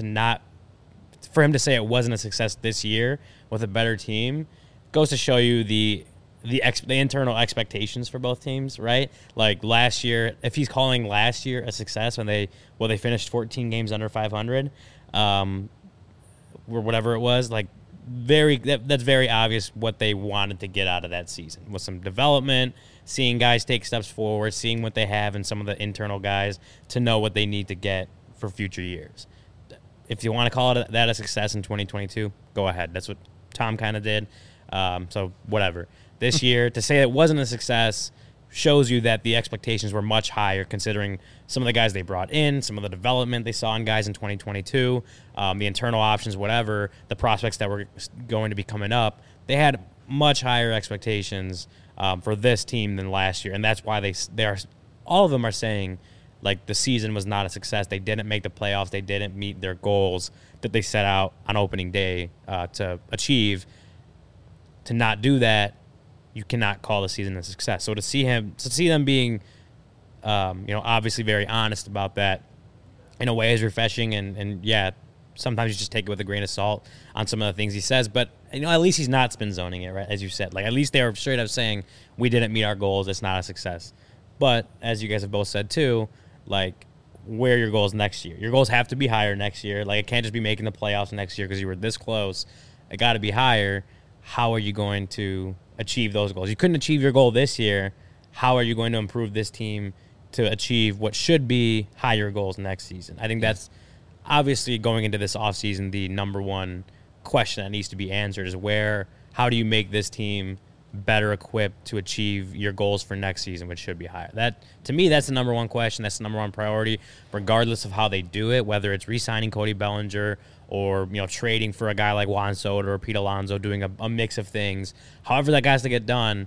to say it wasn't a success this year with a better team goes to show you the internal expectations for both teams, right? Like last year, if he's calling last year a success when they finished 14 games under 500, or whatever it was, like that's very obvious what they wanted to get out of that season with some development, seeing guys take steps forward, seeing what they have in some of the internal guys to know what they need to get for future years. If you want to call that a success in 2022, go ahead. That's what Tom kind of did. So whatever. This year, to say it wasn't a success shows you that the expectations were much higher considering some of the guys they brought in, some of the development they saw in guys in 2022, the internal options, whatever, the prospects that were going to be coming up. They had much higher expectations for this team than last year, and that's why all of them are saying like the season was not a success. They didn't make the playoffs. They didn't meet their goals that they set out on opening day to achieve. To not do that, you cannot call the season a success. So to see them being, obviously very honest about that, in a way is refreshing. And yeah, sometimes you just take it with a grain of salt on some of the things he says. But at least he's not spin zoning it, right? As you said, like at least they were straight up saying we didn't meet our goals. It's not a success. But as you guys have both said too, like where are your goals next year? Your goals have to be higher next year. Like it can't just be making the playoffs next year because you were this close. It got to be higher. How are you going to achieve those goals? You couldn't achieve your goal this year. How are you going to improve this team to achieve what should be higher goals next season? I think that's obviously going into this offseason, the number one question that needs to be answered is how do you make this team better equipped to achieve your goals for next season, which should be higher? That, to me, that's the number one question. That's the number one priority, regardless of how they do it, whether it's re-signing Cody Bellinger or trading for a guy like Juan Soto or Pete Alonso, doing a mix of things. However that has to get done,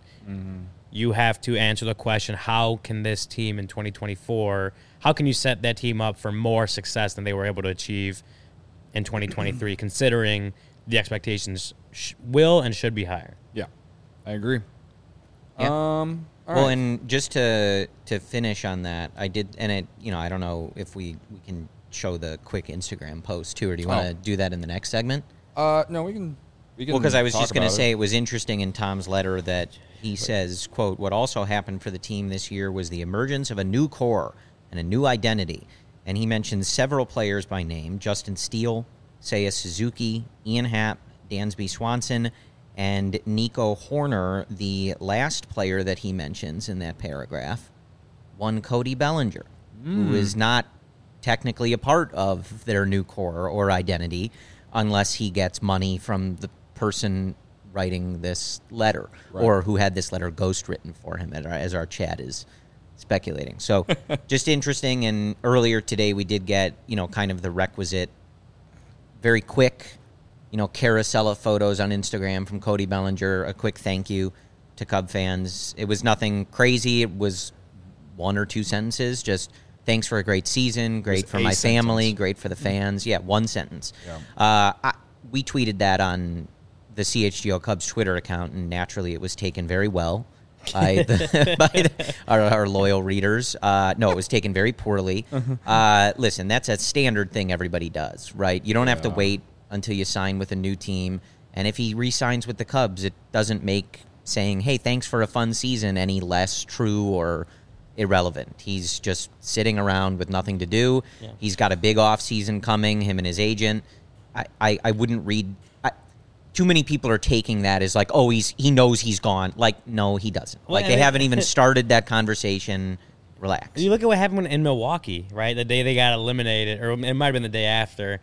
you have to answer the question, how can this team in 2024, how can you set that team up for more success than they were able to achieve in 2023, considering the expectations will and should be higher? Yeah, I agree. Yeah. All well, right. and just to finish on that, I did, and it, I don't know if we can show the quick Instagram post too, or do you want to do that in the next segment? No, we can. Well, because I was just going to say it was interesting in Tom's letter that he says, quote, what also happened for the team this year was the emergence of a new core and a new identity. And he mentions several players by name: Justin Steele, Seiya Suzuki, Ian Happ, Dansby Swanson, and Nico Horner. The last player that he mentions in that paragraph, one Cody Bellinger, who is not technically a part of their new core or identity unless he gets money from the person writing this letter, or who had this letter ghost written for him, as our chat is speculating. So just interesting. And earlier today we did get, kind of the requisite, very quick, carousel of photos on Instagram from Cody Bellinger, a quick thank you to Cub fans. It was nothing crazy. It was one or two sentences, just thanks for a great season, great for my family, great for the fans. Yeah, one sentence. Yeah. We tweeted that on the CHGO Cubs Twitter account, and naturally it was taken very well by, our loyal readers. No, it was taken very poorly. Listen, that's a standard thing everybody does, right? You don't have to wait until you sign with a new team. And if he re-signs with the Cubs, it doesn't make saying, hey, thanks for a fun season, any less true or irrelevant. He's just sitting around with nothing to do. Yeah. He's got a big off season coming, him and his agent. I wouldn't read. Too many people are taking that as like, oh, he knows he's gone. Like, no, he doesn't. Well, they haven't even started that conversation. Relax. You look at what happened in Milwaukee, right? The day they got eliminated, or it might have been the day after,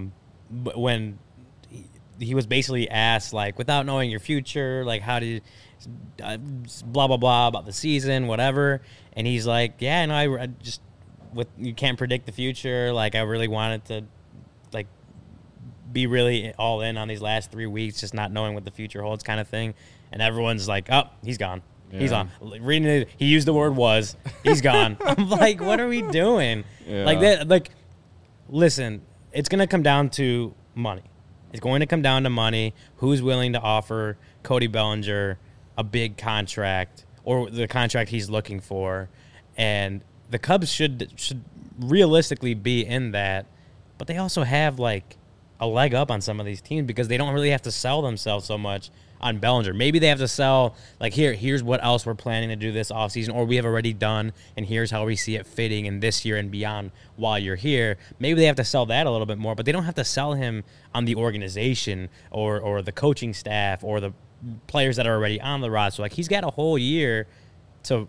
when he was basically asked, like, without knowing your future, like, how do you... blah, blah, blah about the season, whatever. And he's like, yeah, no, I just, you can't predict the future. Like, I really wanted to, like, be really all in on these last 3 weeks, just not knowing what the future holds kind of thing. And everyone's like, oh, he's gone. Yeah. He's on. Reading it, he used the word was. He's gone. I'm like, what are we doing? Yeah. Like that. Like, listen, it's going to come down to money. It's going to come down to money. Who's willing to offer Cody Bellinger a big contract or the contract he's looking for? And the Cubs should realistically be in that. But they also have, like, a leg up on some of these teams because they don't really have to sell themselves so much on Bellinger. Maybe they have to sell, like, here's what else we're planning to do this offseason, or we have already done, and here's how we see it fitting in this year and beyond while you're here. Maybe they have to sell that a little bit more, but they don't have to sell him on the organization or the coaching staff or the players that are already on the roster. Like, he's got a whole year to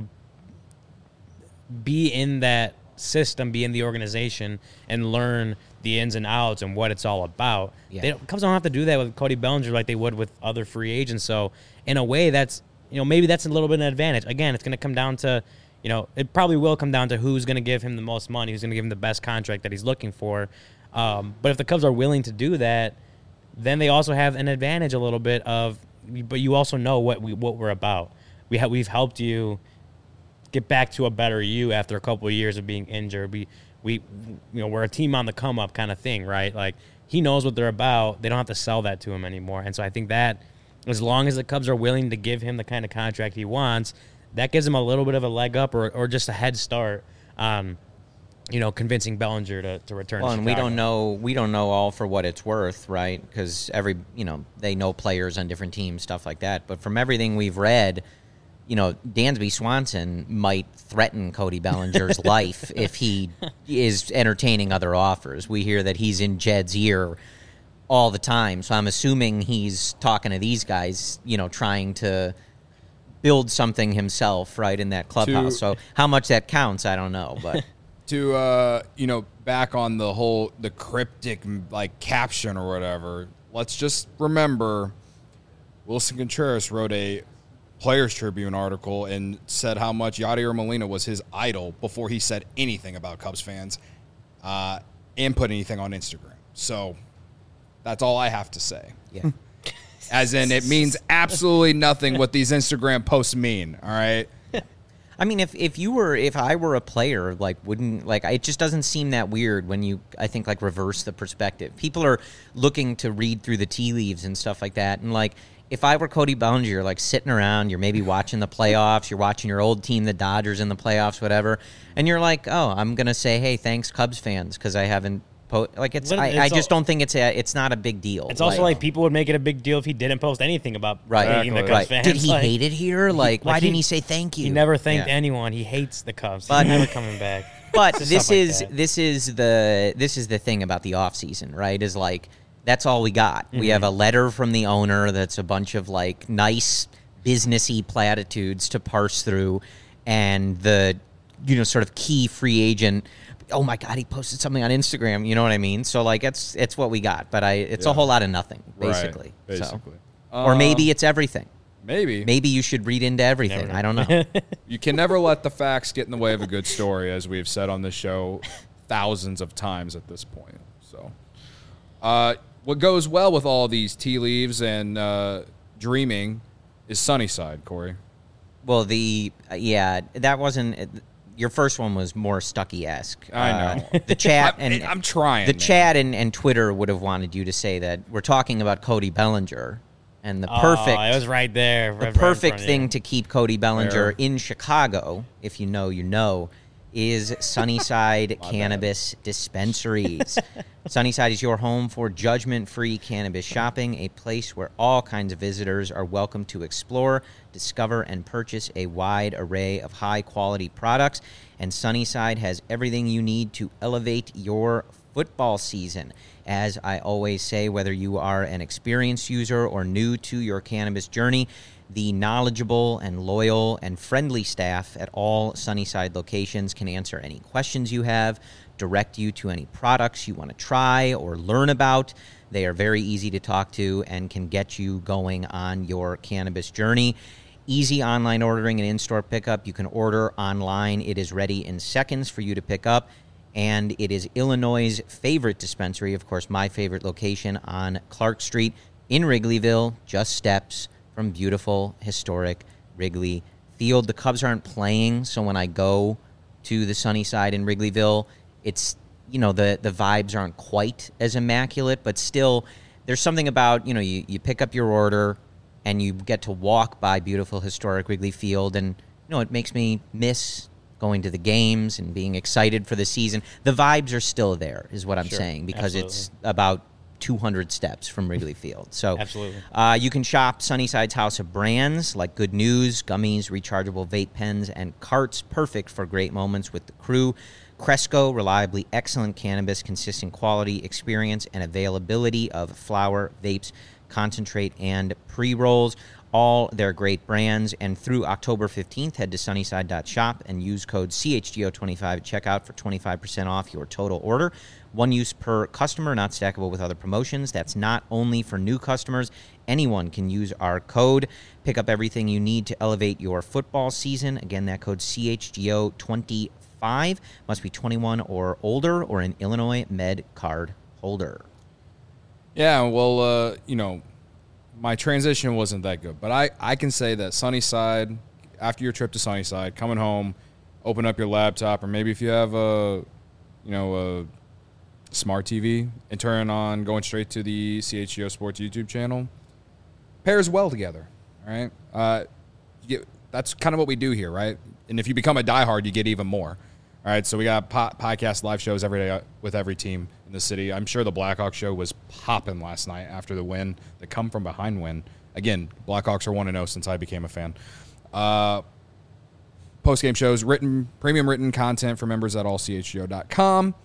be in that system, be in the organization, and learn the ins and outs and what it's all about. Yeah. Cubs don't have to do that with Cody Bellinger like they would with other free agents. So in a way, that's, maybe that's a little bit of an advantage. Again, it's going to come down to, it probably will come down to who's going to give him the most money, who's going to give him the best contract that he's looking for. But if the Cubs are willing to do that, then they also have an advantage a little bit of, but you also know what we're about. We've helped you get back to a better you after a couple of years of being injured. We're a team on the come up kind of thing, right? Like, he knows what they're about. They don't have to sell that to him anymore. And so I think that as long as the Cubs are willing to give him the kind of contract he wants, that gives him a little bit of a leg up or just a head start on, convincing Bellinger to return to Chicago. And we don't know all for what it's worth, right? Because they know players on different teams, stuff like that. But from everything we've read, Dansby Swanson might threaten Cody Bellinger's life if he is entertaining other offers. We hear that he's in Jed's ear all the time. So I'm assuming he's talking to these guys, trying to build something himself right in that clubhouse. So how much that counts, I don't know. But back on the cryptic, like, caption or whatever, let's just remember Wilson Contreras wrote a Players Tribune article and said how much Yadier Molina was his idol before he said anything about Cubs fans and put anything on Instagram. So that's all I have to say. Yeah. As in, it means absolutely nothing what these Instagram posts mean, all right? I mean, if I were a player, like, it just doesn't seem that weird when you, I think, like, reverse the perspective. People are looking to read through the tea leaves and stuff like that, and, like, if I were Cody Bellinger, you're, like, sitting around, you're maybe watching the playoffs, you're watching your old team, the Dodgers, in the playoffs, whatever, and you're like, oh, I'm going to say, hey, thanks, Cubs fans, because I haven't I just don't think it's not a big deal. It's also like people would make it a big deal if he didn't post anything about the Cubs fans. Did he hate it here? Why didn't he say thank you? He never thanked anyone. He hates the Cubs. He's never coming back. But this is the thing about the offseason, right? Is like, that's all we got. Mm-hmm. We have a letter from the owner that's a bunch of, like, nice businessy platitudes to parse through, and the sort of key free agent. Oh my God, he posted something on Instagram. You know what I mean? So, like, it's what we got, but it's a whole lot of nothing, basically. Right, basically. So. Or maybe it's everything. Maybe you should read into everything. I don't know. You can never let the facts get in the way of a good story, as we've said on this show thousands of times at this point. So, what goes well with all these tea leaves and dreaming is Sunnyside, Corey. Well, that wasn't. Your first one was more Stuckey-esque. I know. The chat I'm trying. The chat and Twitter would have wanted you to say that we're talking about Cody Bellinger, and the perfect. It was right there. The perfect thing to keep Cody Bellinger in Chicago, if you know, is Sunnyside Cannabis Dispensaries. Sunnyside is your home for judgment-free cannabis shopping, a place where all kinds of visitors are welcome to explore, discover, and purchase a wide array of high-quality products. And Sunnyside has everything you need to elevate your football season. As I always say, whether you are an experienced user or new to your cannabis journey, The knowledgeable and loyal and friendly staff at all Sunnyside locations can answer any questions you have, direct you to any products you want to try or learn about. They are very easy to talk to and can get you going on your cannabis journey. Easy online ordering and in-store pickup. You can order online. It is ready in seconds for you to pick up. And it is Illinois' favorite dispensary, of course, my favorite location on Clark Street in Wrigleyville, just steps from beautiful, historic Wrigley Field. The Cubs aren't playing, so when I go to the Sunnyside in Wrigleyville, it's, the vibes aren't quite as immaculate, but still there's something about, you pick up your order and you get to walk by beautiful, historic Wrigley Field, and, it makes me miss going to the games and being excited for the season. The vibes are still there, is what I'm saying, because it's about 200 steps from Wrigley Field. So absolutely. You can shop Sunnyside's house of brands like Good News, gummies, rechargeable vape pens, and carts, perfect for great moments with the crew. Cresco, reliably excellent cannabis, consistent quality, experience, and availability of flower, vapes, concentrate, and pre-rolls. All their great brands. And through October 15th, head to sunnyside.shop and use code CHGO25 at checkout for 25% off your total order. One use per customer, not stackable with other promotions. That's not only for new customers. Anyone can use our code. Pick up everything you need to elevate your football season. Again, that code CHGO25. Must be 21 or older or an Illinois Med card holder. Yeah, well, my transition wasn't that good, but I can say that Sunnyside, after your trip to Sunnyside, coming home, open up your laptop, or maybe if you have a smart TV and turn on, going straight to the CHGO Sports YouTube channel, pairs well together, all right? That's kind of what we do here, right? And if you become a diehard, you get even more. All right, so we got podcast live shows every day with every team in the city. I'm sure the Blackhawks show was popping last night after the win, the come-from-behind win. Again, Blackhawks are 1-0 since I became a fan. Post-game shows, premium written content for members at allchgo.com.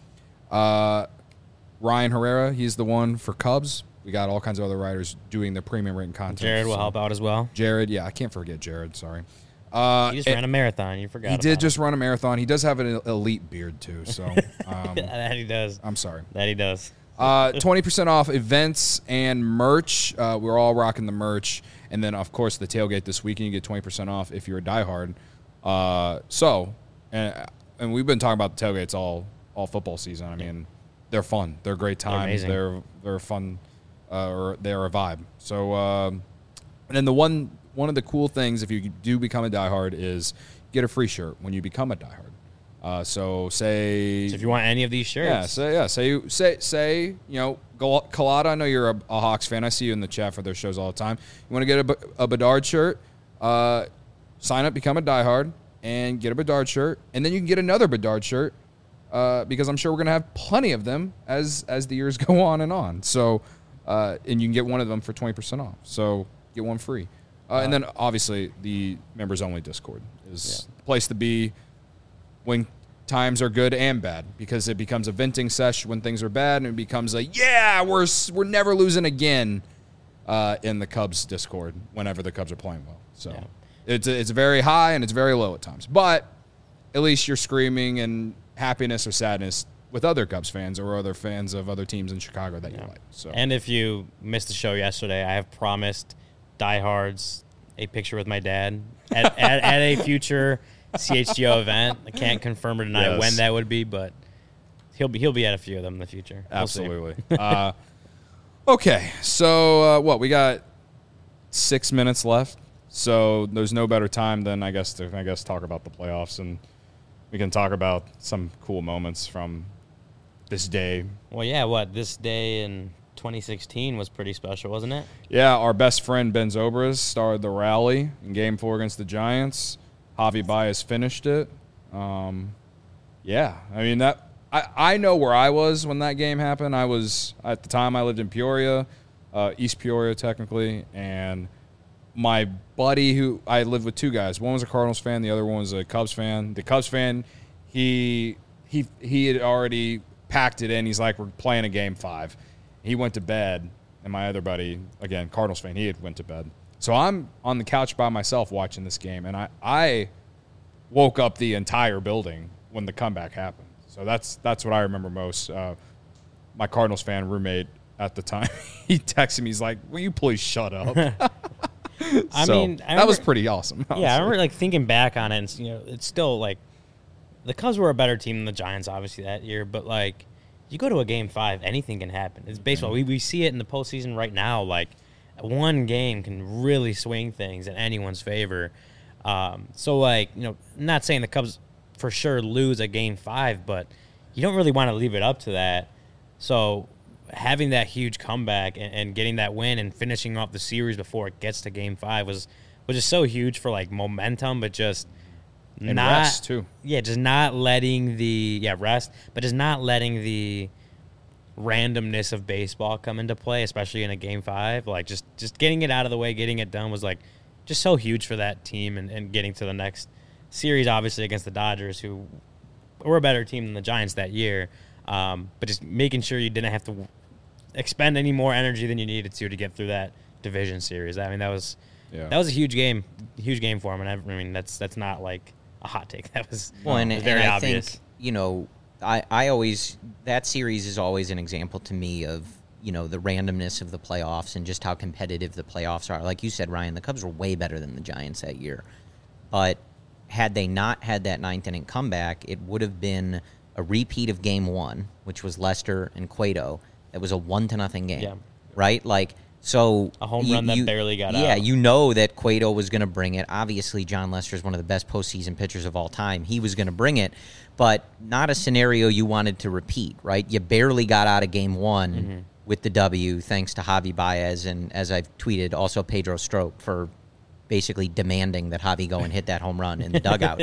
Ryan Herrera, he's the one for Cubs. We got all kinds of other writers doing the premium written content. Jared will help out as well. Jared, yeah, I can't forget Jared, sorry. He just ran a marathon. You forgot. He did just run a marathon. He does have an elite beard too. So that he does. I'm sorry. That he does. 20% off events and merch. We're all rocking the merch, and then of course the tailgate this weekend. You get 20% off if you're a diehard. And we've been talking about the tailgates all football season. I mean, they're fun. They're a great time. They're fun. Or they're a vibe. So and then one of the cool things, if you do become a diehard, is get a free shirt when you become a diehard. So if you want any of these shirts, say Colada. I know you're a Hawks fan. I see you in the chat for their shows all the time. You want to get a Bedard shirt? Sign up, become a diehard, and get a Bedard shirt, and then you can get another Bedard shirt because I'm sure we're gonna have plenty of them as the years go on and on. So and you can get one of them for 20% off. So get one free. And then, obviously, the members-only Discord is the place to be when times are good and bad, because it becomes a venting sesh when things are bad, and it becomes we're never losing again in the Cubs Discord whenever the Cubs are playing well. So it's very high and it's very low at times. But at least you're screaming in happiness or sadness with other Cubs fans or other fans of other teams in Chicago that you like. So. And if you missed the show yesterday, I have promised diehards a picture with my dad at a future CHGO event. I can't confirm or deny when that would be, but he'll be at a few of them in the future. Absolutely. Okay, so we got 6 minutes left, so there's no better time than I guess talk about the playoffs, and we can talk about some cool moments from this day. Well, this day in 2016 was pretty special, wasn't it? Yeah, our best friend Ben Zobrist started the rally in Game 4 against the Giants. Javi Baez finished it. I mean, I know where I was when that game happened. I was, at the time, I lived in Peoria, East Peoria technically, and my buddy who I lived with, two guys. One was a Cardinals fan, the other one was a Cubs fan. The Cubs fan, he had already packed it in. He's like, we're playing a Game 5. He went to bed, and my other buddy, again, Cardinals fan, he had went to bed. So I'm on the couch by myself watching this game, and I woke up the entire building when the comeback happened. So that's what I remember most. My Cardinals fan roommate at the time, he texted me. He's like, "Will you please shut up?" I mean, that was pretty awesome. Honestly. Yeah, I remember like thinking back on it, and it's still like the Cubs were a better team than the Giants, obviously that year. But like, you go to a Game 5, anything can happen. It's baseball. We see it in the postseason right now. Like, one game can really swing things in anyone's favor. So like, not saying the Cubs for sure lose a Game 5, but you don't really want to leave it up to that. So having that huge comeback and getting that win and finishing off the series before it gets to Game 5 was just so huge for like momentum, but just and not rest too. Yeah, just not letting rest, but just not letting the randomness of baseball come into play, especially in a Game 5. Like just getting it out of the way, getting it done was like just so huge for that team and getting to the next series, obviously against the Dodgers, who were a better team than the Giants that year. But just making sure you didn't have to expend any more energy than you needed to get through that division series. I mean, that was a huge game for him. And I mean, that's not like a hot take. That was very obvious. Think, I always, that series is always an example to me of, the randomness of the playoffs and just how competitive the playoffs are. Like you said, Ryan, the Cubs were way better than the Giants that year. But had they not had that ninth inning comeback, it would have been a repeat of Game 1, which was Lester and Cueto. It was a 1-0 game, right? Like, so a home run that barely got out. Yeah, you know that Cueto was going to bring it. Obviously, John Lester is one of the best postseason pitchers of all time. He was going to bring it, but not a scenario you wanted to repeat, right? You barely got out of Game 1 with the W, thanks to Javi Baez, and as I've tweeted, also Pedro Strop for basically demanding that Javi go and hit that home run in the dugout.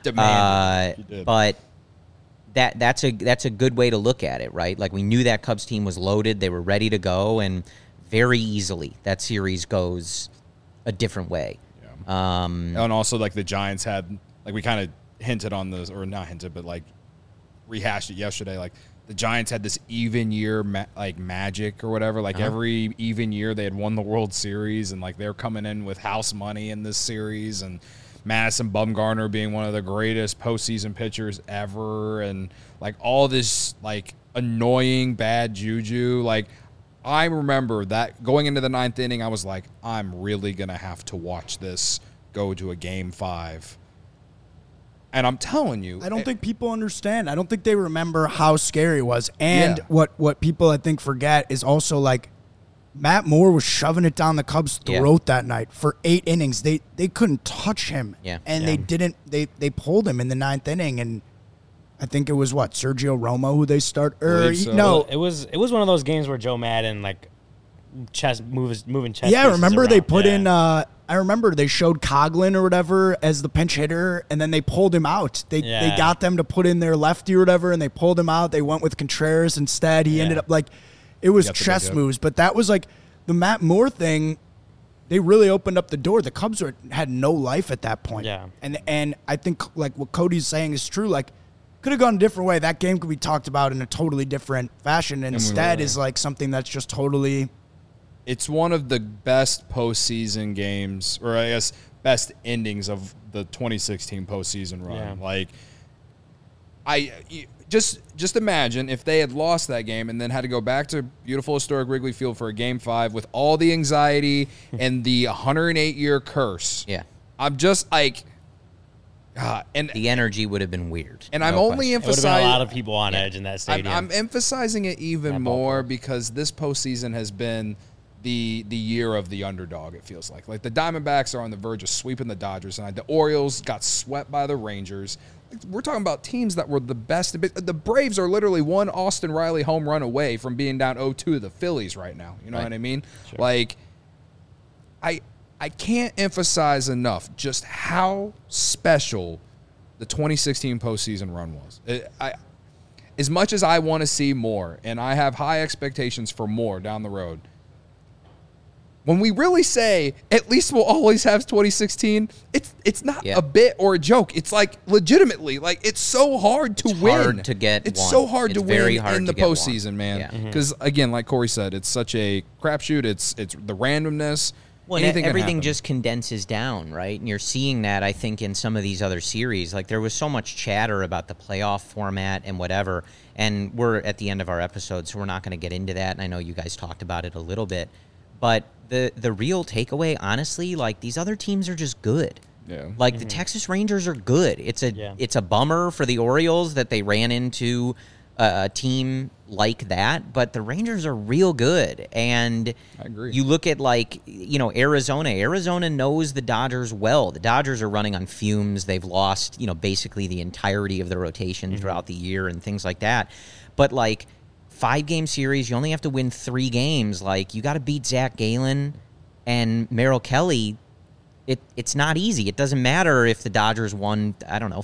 But that's a good way to look at it, right? Like, we knew that Cubs team was loaded, they were ready to go, and very easily that series goes a different way. Yeah. And also, like, the Giants had, like, we kind of hinted on this, or not hinted, but like rehashed it yesterday. Like, the Giants had this even year magic or whatever. Like, every even year they had won the World Series, and like they're coming in with house money in this series, and Madison Bumgarner being one of the greatest postseason pitchers ever, and like all this like annoying bad juju. Like, I remember that going into the ninth inning, I was like, I'm really gonna have to watch this go to a Game 5. And I'm telling you, I don't think people understand. I don't think they remember how scary it was. And what people I think forget is also like Matt Moore was shoving it down the Cubs' throat that night for 8 innings. They couldn't touch him. And they didn't. They pulled him in the ninth inning, and I think it was Sergio Romo who they start. So. No, it was one of those games where Joe Madden like moving chess. Yeah, remember they put in. I remember they showed Coughlin or whatever as the pinch hitter, and then they pulled him out. They got them to put in their lefty or whatever, and they pulled him out. They went with Contreras instead. He ended up like it was chess moves, but that was like the Matt Moore thing. They really opened up the door. The Cubs had no life at that point. Yeah, and I think like what Cody's saying is true. Like, could have gone a different way. That game could be talked about in a totally different fashion. Instead, is like something that's just totally. It's one of the best postseason games, or I guess best endings of the 2016 postseason run. Yeah. Like, I just imagine if they had lost that game and then had to go back to beautiful historic Wrigley Field for a Game 5 with all the anxiety and the 108-year curse. Yeah, I'm just like, and the energy would have been weird. And I'm only emphasizing, it would have been a lot of people on edge in that stadium. I'm emphasizing it even more because this postseason has been the year of the underdog, it feels like. Like, the Diamondbacks are on the verge of sweeping the Dodgers tonight. The Orioles got swept by the Rangers. We're talking about teams that were the best. The Braves are literally one Austin Riley home run away from being down 0-2 to the Phillies right now. You know what I mean? Sure. Like, I can't emphasize enough just how special the 2016 postseason run was. As much as I want to see more, and I have high expectations for more down the road, when we really say at least we'll always have 2016, it's not a bit or a joke. It's like legitimately, like, it's so hard to win. Hard to get. It's one. so hard it's to very win hard in the postseason, man. Because again, like Corey said, it's such a crapshoot. It's the randomness. Well, anything can everything happen. just condenses down, right? And you're seeing that, I think, in some of these other series. Like, there was so much chatter about the playoff format and whatever, and we're at the end of our episode, so we're not going to get into that, and I know you guys talked about it a little bit. But the real takeaway, honestly, like, these other teams are just good. Yeah. Like, the Texas Rangers are good. It's a bummer for the Orioles that they ran into a team like that, but the Rangers are real good. And I agree. You look at, like, you know, Arizona. Arizona knows the Dodgers well. The Dodgers are running on fumes. They've lost, you know, basically the entirety of the rotation throughout the year and things like that. But, like, 5-game series, you only have to win 3 games. Like, you got to beat Zach Gallen and Merrill Kelly. It's not easy. It doesn't matter if the Dodgers won,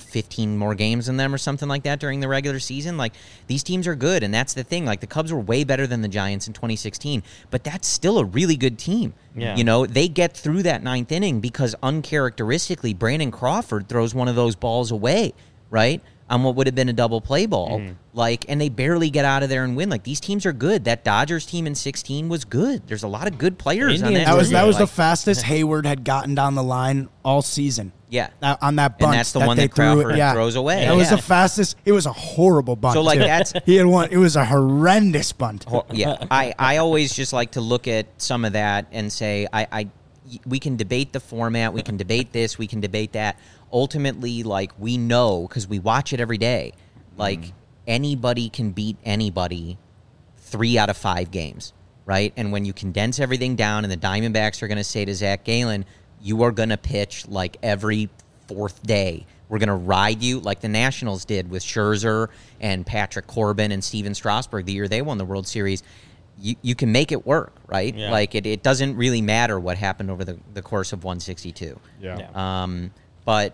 15 more games than them or something like that during the regular season. Like, these teams are good, and that's the thing. Like, the Cubs were way better than the Giants in 2016, but that's still a really good team. Yeah. You know, they get through that 9th inning because uncharacteristically, Brandon Crawford throws one of those balls away, right, on what would have been a double play ball. Like, and they barely get out of there and win. Like, these teams are good. That Dodgers team in 16 was good. There's a lot of good players on Indians that. were team. That was Like, the fastest Hayward had gotten down the line all season. Yeah. On that bunt. And that's the that one they that Crawford threw, throws away. That was Yeah. the fastest. It was a horrible bunt. So, like, too. that's- he had one. It was a horrendous bunt. Yeah, I always just like to look at some of that and say, we can debate the format, we can debate this, we can debate that. Ultimately, like, we know, because we watch it every day, like, anybody can beat anybody 3 out of 5 games, right? And when you condense everything down and the Diamondbacks are going to say to Zach Gallen, you are going to pitch like every 4th day. We're going to ride you like the Nationals did with Scherzer and Patrick Corbin and Steven Strasburg the year they won the World Series. You can make it work, right? Yeah. Like, it doesn't really matter what happened over the course of 162. Yeah. But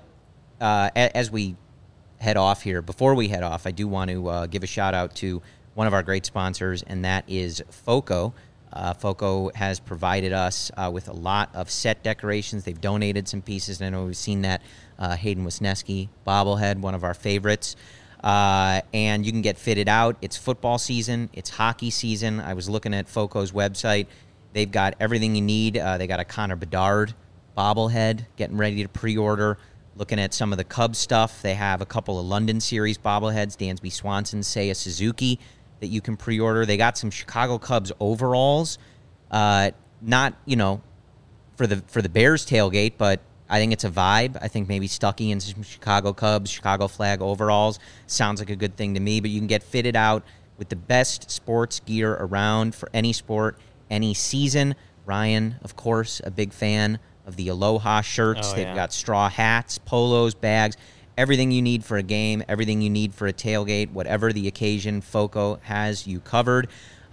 as we head off here, before we head off, I do want to give a shout out to one of our great sponsors, and that is FOCO. FOCO has provided us with a lot of set decorations. They've donated some pieces, and I know we've seen that Hayden Wisniewski bobblehead, one of our favorites. And you can get fitted out. It's football season. It's hockey season. I was looking at FOCO's website. They've got everything you need. They got a Connor Bedard bobblehead, getting ready to pre-order. Looking at some of the Cubs stuff, they have a couple of London Series bobbleheads, Dansby Swanson, Seiya Suzuki, that you can pre-order. They got some Chicago Cubs overalls, not, you know, for the Bears tailgate, but I think it's a vibe. I think maybe Stuckey and some Chicago Cubs, Chicago flag overalls sounds like a good thing to me, but you can get fitted out with the best sports gear around for any sport, any season. Ryan, of course, a big fan of the Aloha shirts. Oh, They've yeah. got straw hats, polos, bags, everything you need for a game, everything you need for a tailgate, whatever the occasion, FOCO has you covered.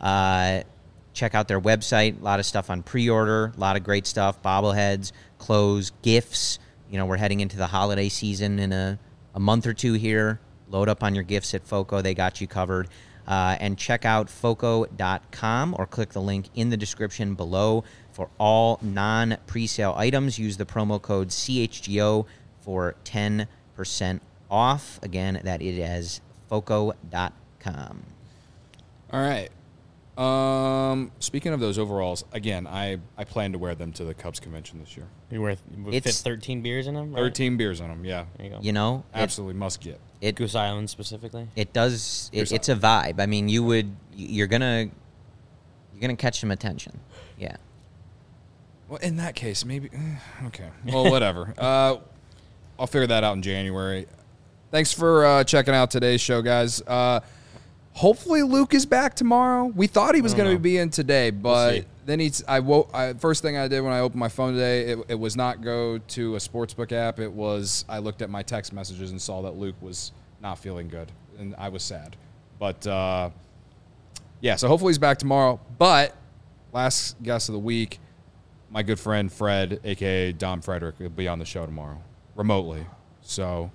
Check out their website. A lot of stuff on pre-order, a lot of great stuff, bobbleheads, clothes, gifts. You know, we're heading into the holiday season in a month or two here. Load up on your gifts at FOCO. They got you covered. And check out FOCO.com or click the link in the description below for all non-presale items. Use the promo code CHGO for 10% off. Again, that it is FOCO.com. All right. Speaking of those overalls, again, I plan to wear them to the Cubs convention this year. You fit It's- 13 beers in them, right? 13 beers on them, yeah. There you go. You know, Absolutely must get. Goose Island specifically. It's a vibe. I mean, you're gonna catch some attention. Yeah. Well, in that case, maybe. Okay. Well, whatever. I'll figure that out in January. Thanks for checking out today's show, guys. Hopefully, Luke is back tomorrow. We thought he was going to be in today, but see. then first thing I did when I opened my phone today, it was not go to a sportsbook app. It was I looked at my text messages and saw that Luke was not feeling good, and I was sad. But yeah, so hopefully he's back tomorrow. But last guest of the week, my good friend Fred, a.k.a. Dom Frederick, will be on the show tomorrow, remotely. So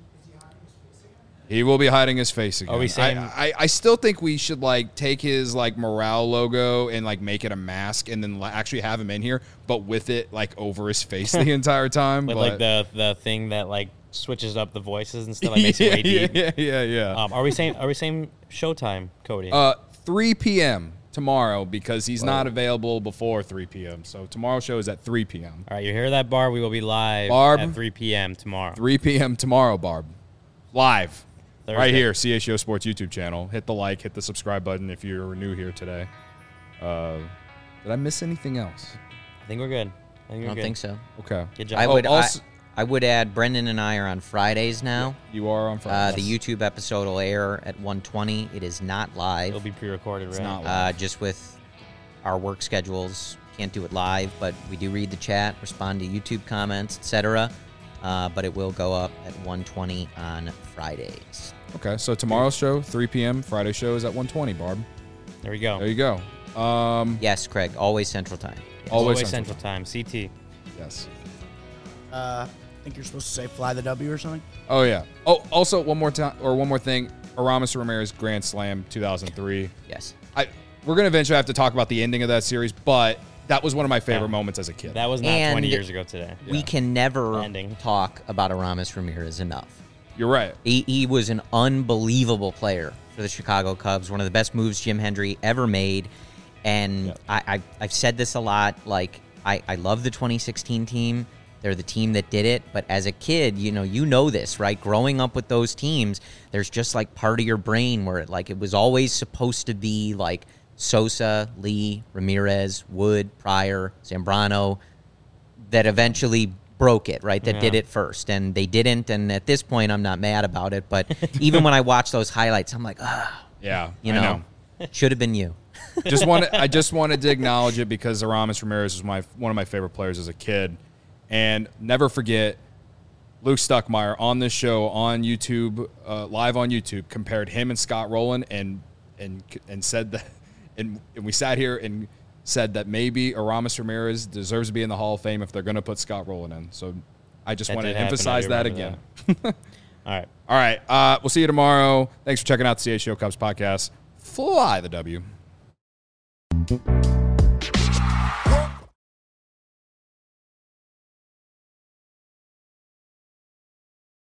he will be hiding his face again. Are we saying- I still think we should, like, take his, like, morale logo and, like, make it a mask and then actually have him in here, but with it, like, over his face the entire time. With but, like the thing that like switches up the voices and stuff. Like makes it way deep. yeah. Are we saying Showtime, Cody? 3 p.m. tomorrow because he's not available before 3 p.m. So tomorrow's show is at 3 p.m. All right, you hear that, Barb? We will be live Barb, at 3 p.m. tomorrow. 3 p.m. tomorrow, Barb. Live. Thursday. Right here, CHO Sports YouTube channel. Hit the like, hit the subscribe button if you're new here today. Did I miss anything else? I think we're good. I don't think so. Okay. Good job. I would add Brendan and I are on Fridays now. You are on Friday. The YouTube episode will air at 1:20. It is not live. It'll be pre-recorded, right? It's not live. Just with our work schedules, can't do it live, but we do read the chat, respond to YouTube comments, etc. But it will go up at 1:20 on Fridays. Okay, so tomorrow's show, 3 p.m. Friday show is at 1:20, Barb. There we go. There you go. Yes, Craig, always Central Time. Yes. Always Central Time. CT. Yes. I think you're supposed to say fly the W or something. Oh, yeah. Oh, also, one more thing. Aramis Ramirez Grand Slam 2003. Yes. We're going to eventually have to talk about the ending of that series, but that was one of my favorite moments as a kid. That was not 20 years ago today. We can never talk about Aramis Ramirez enough. You're right. He was an unbelievable player for the Chicago Cubs, one of the best moves Jim Hendry ever made. And I've said this a lot, like, I love the 2016 team. They're the team that did it. But as a kid, you know this, right? Growing up with those teams, there's just like part of your brain where it was always supposed to be like Sosa, Lee, Ramirez, Wood, Pryor, Zambrano, that eventually broke it, right? That did it first. And they didn't. And at this point, I'm not mad about it. But even when I watch those highlights, I'm like, yeah, I know. Should have been you. I just wanted to acknowledge it because Aramis Ramirez was one of my favorite players as a kid. And never forget, Luke Stuckmeyer on this show on YouTube, live on YouTube, compared him and Scott Rowland and said that, and we sat here and said that maybe Aramis Ramirez deserves to be in the Hall of Fame if they're going to put Scott Rowland in. So I just want to emphasize that again. All right. We'll see you tomorrow. Thanks for checking out the CHO Cubs podcast. Fly the W.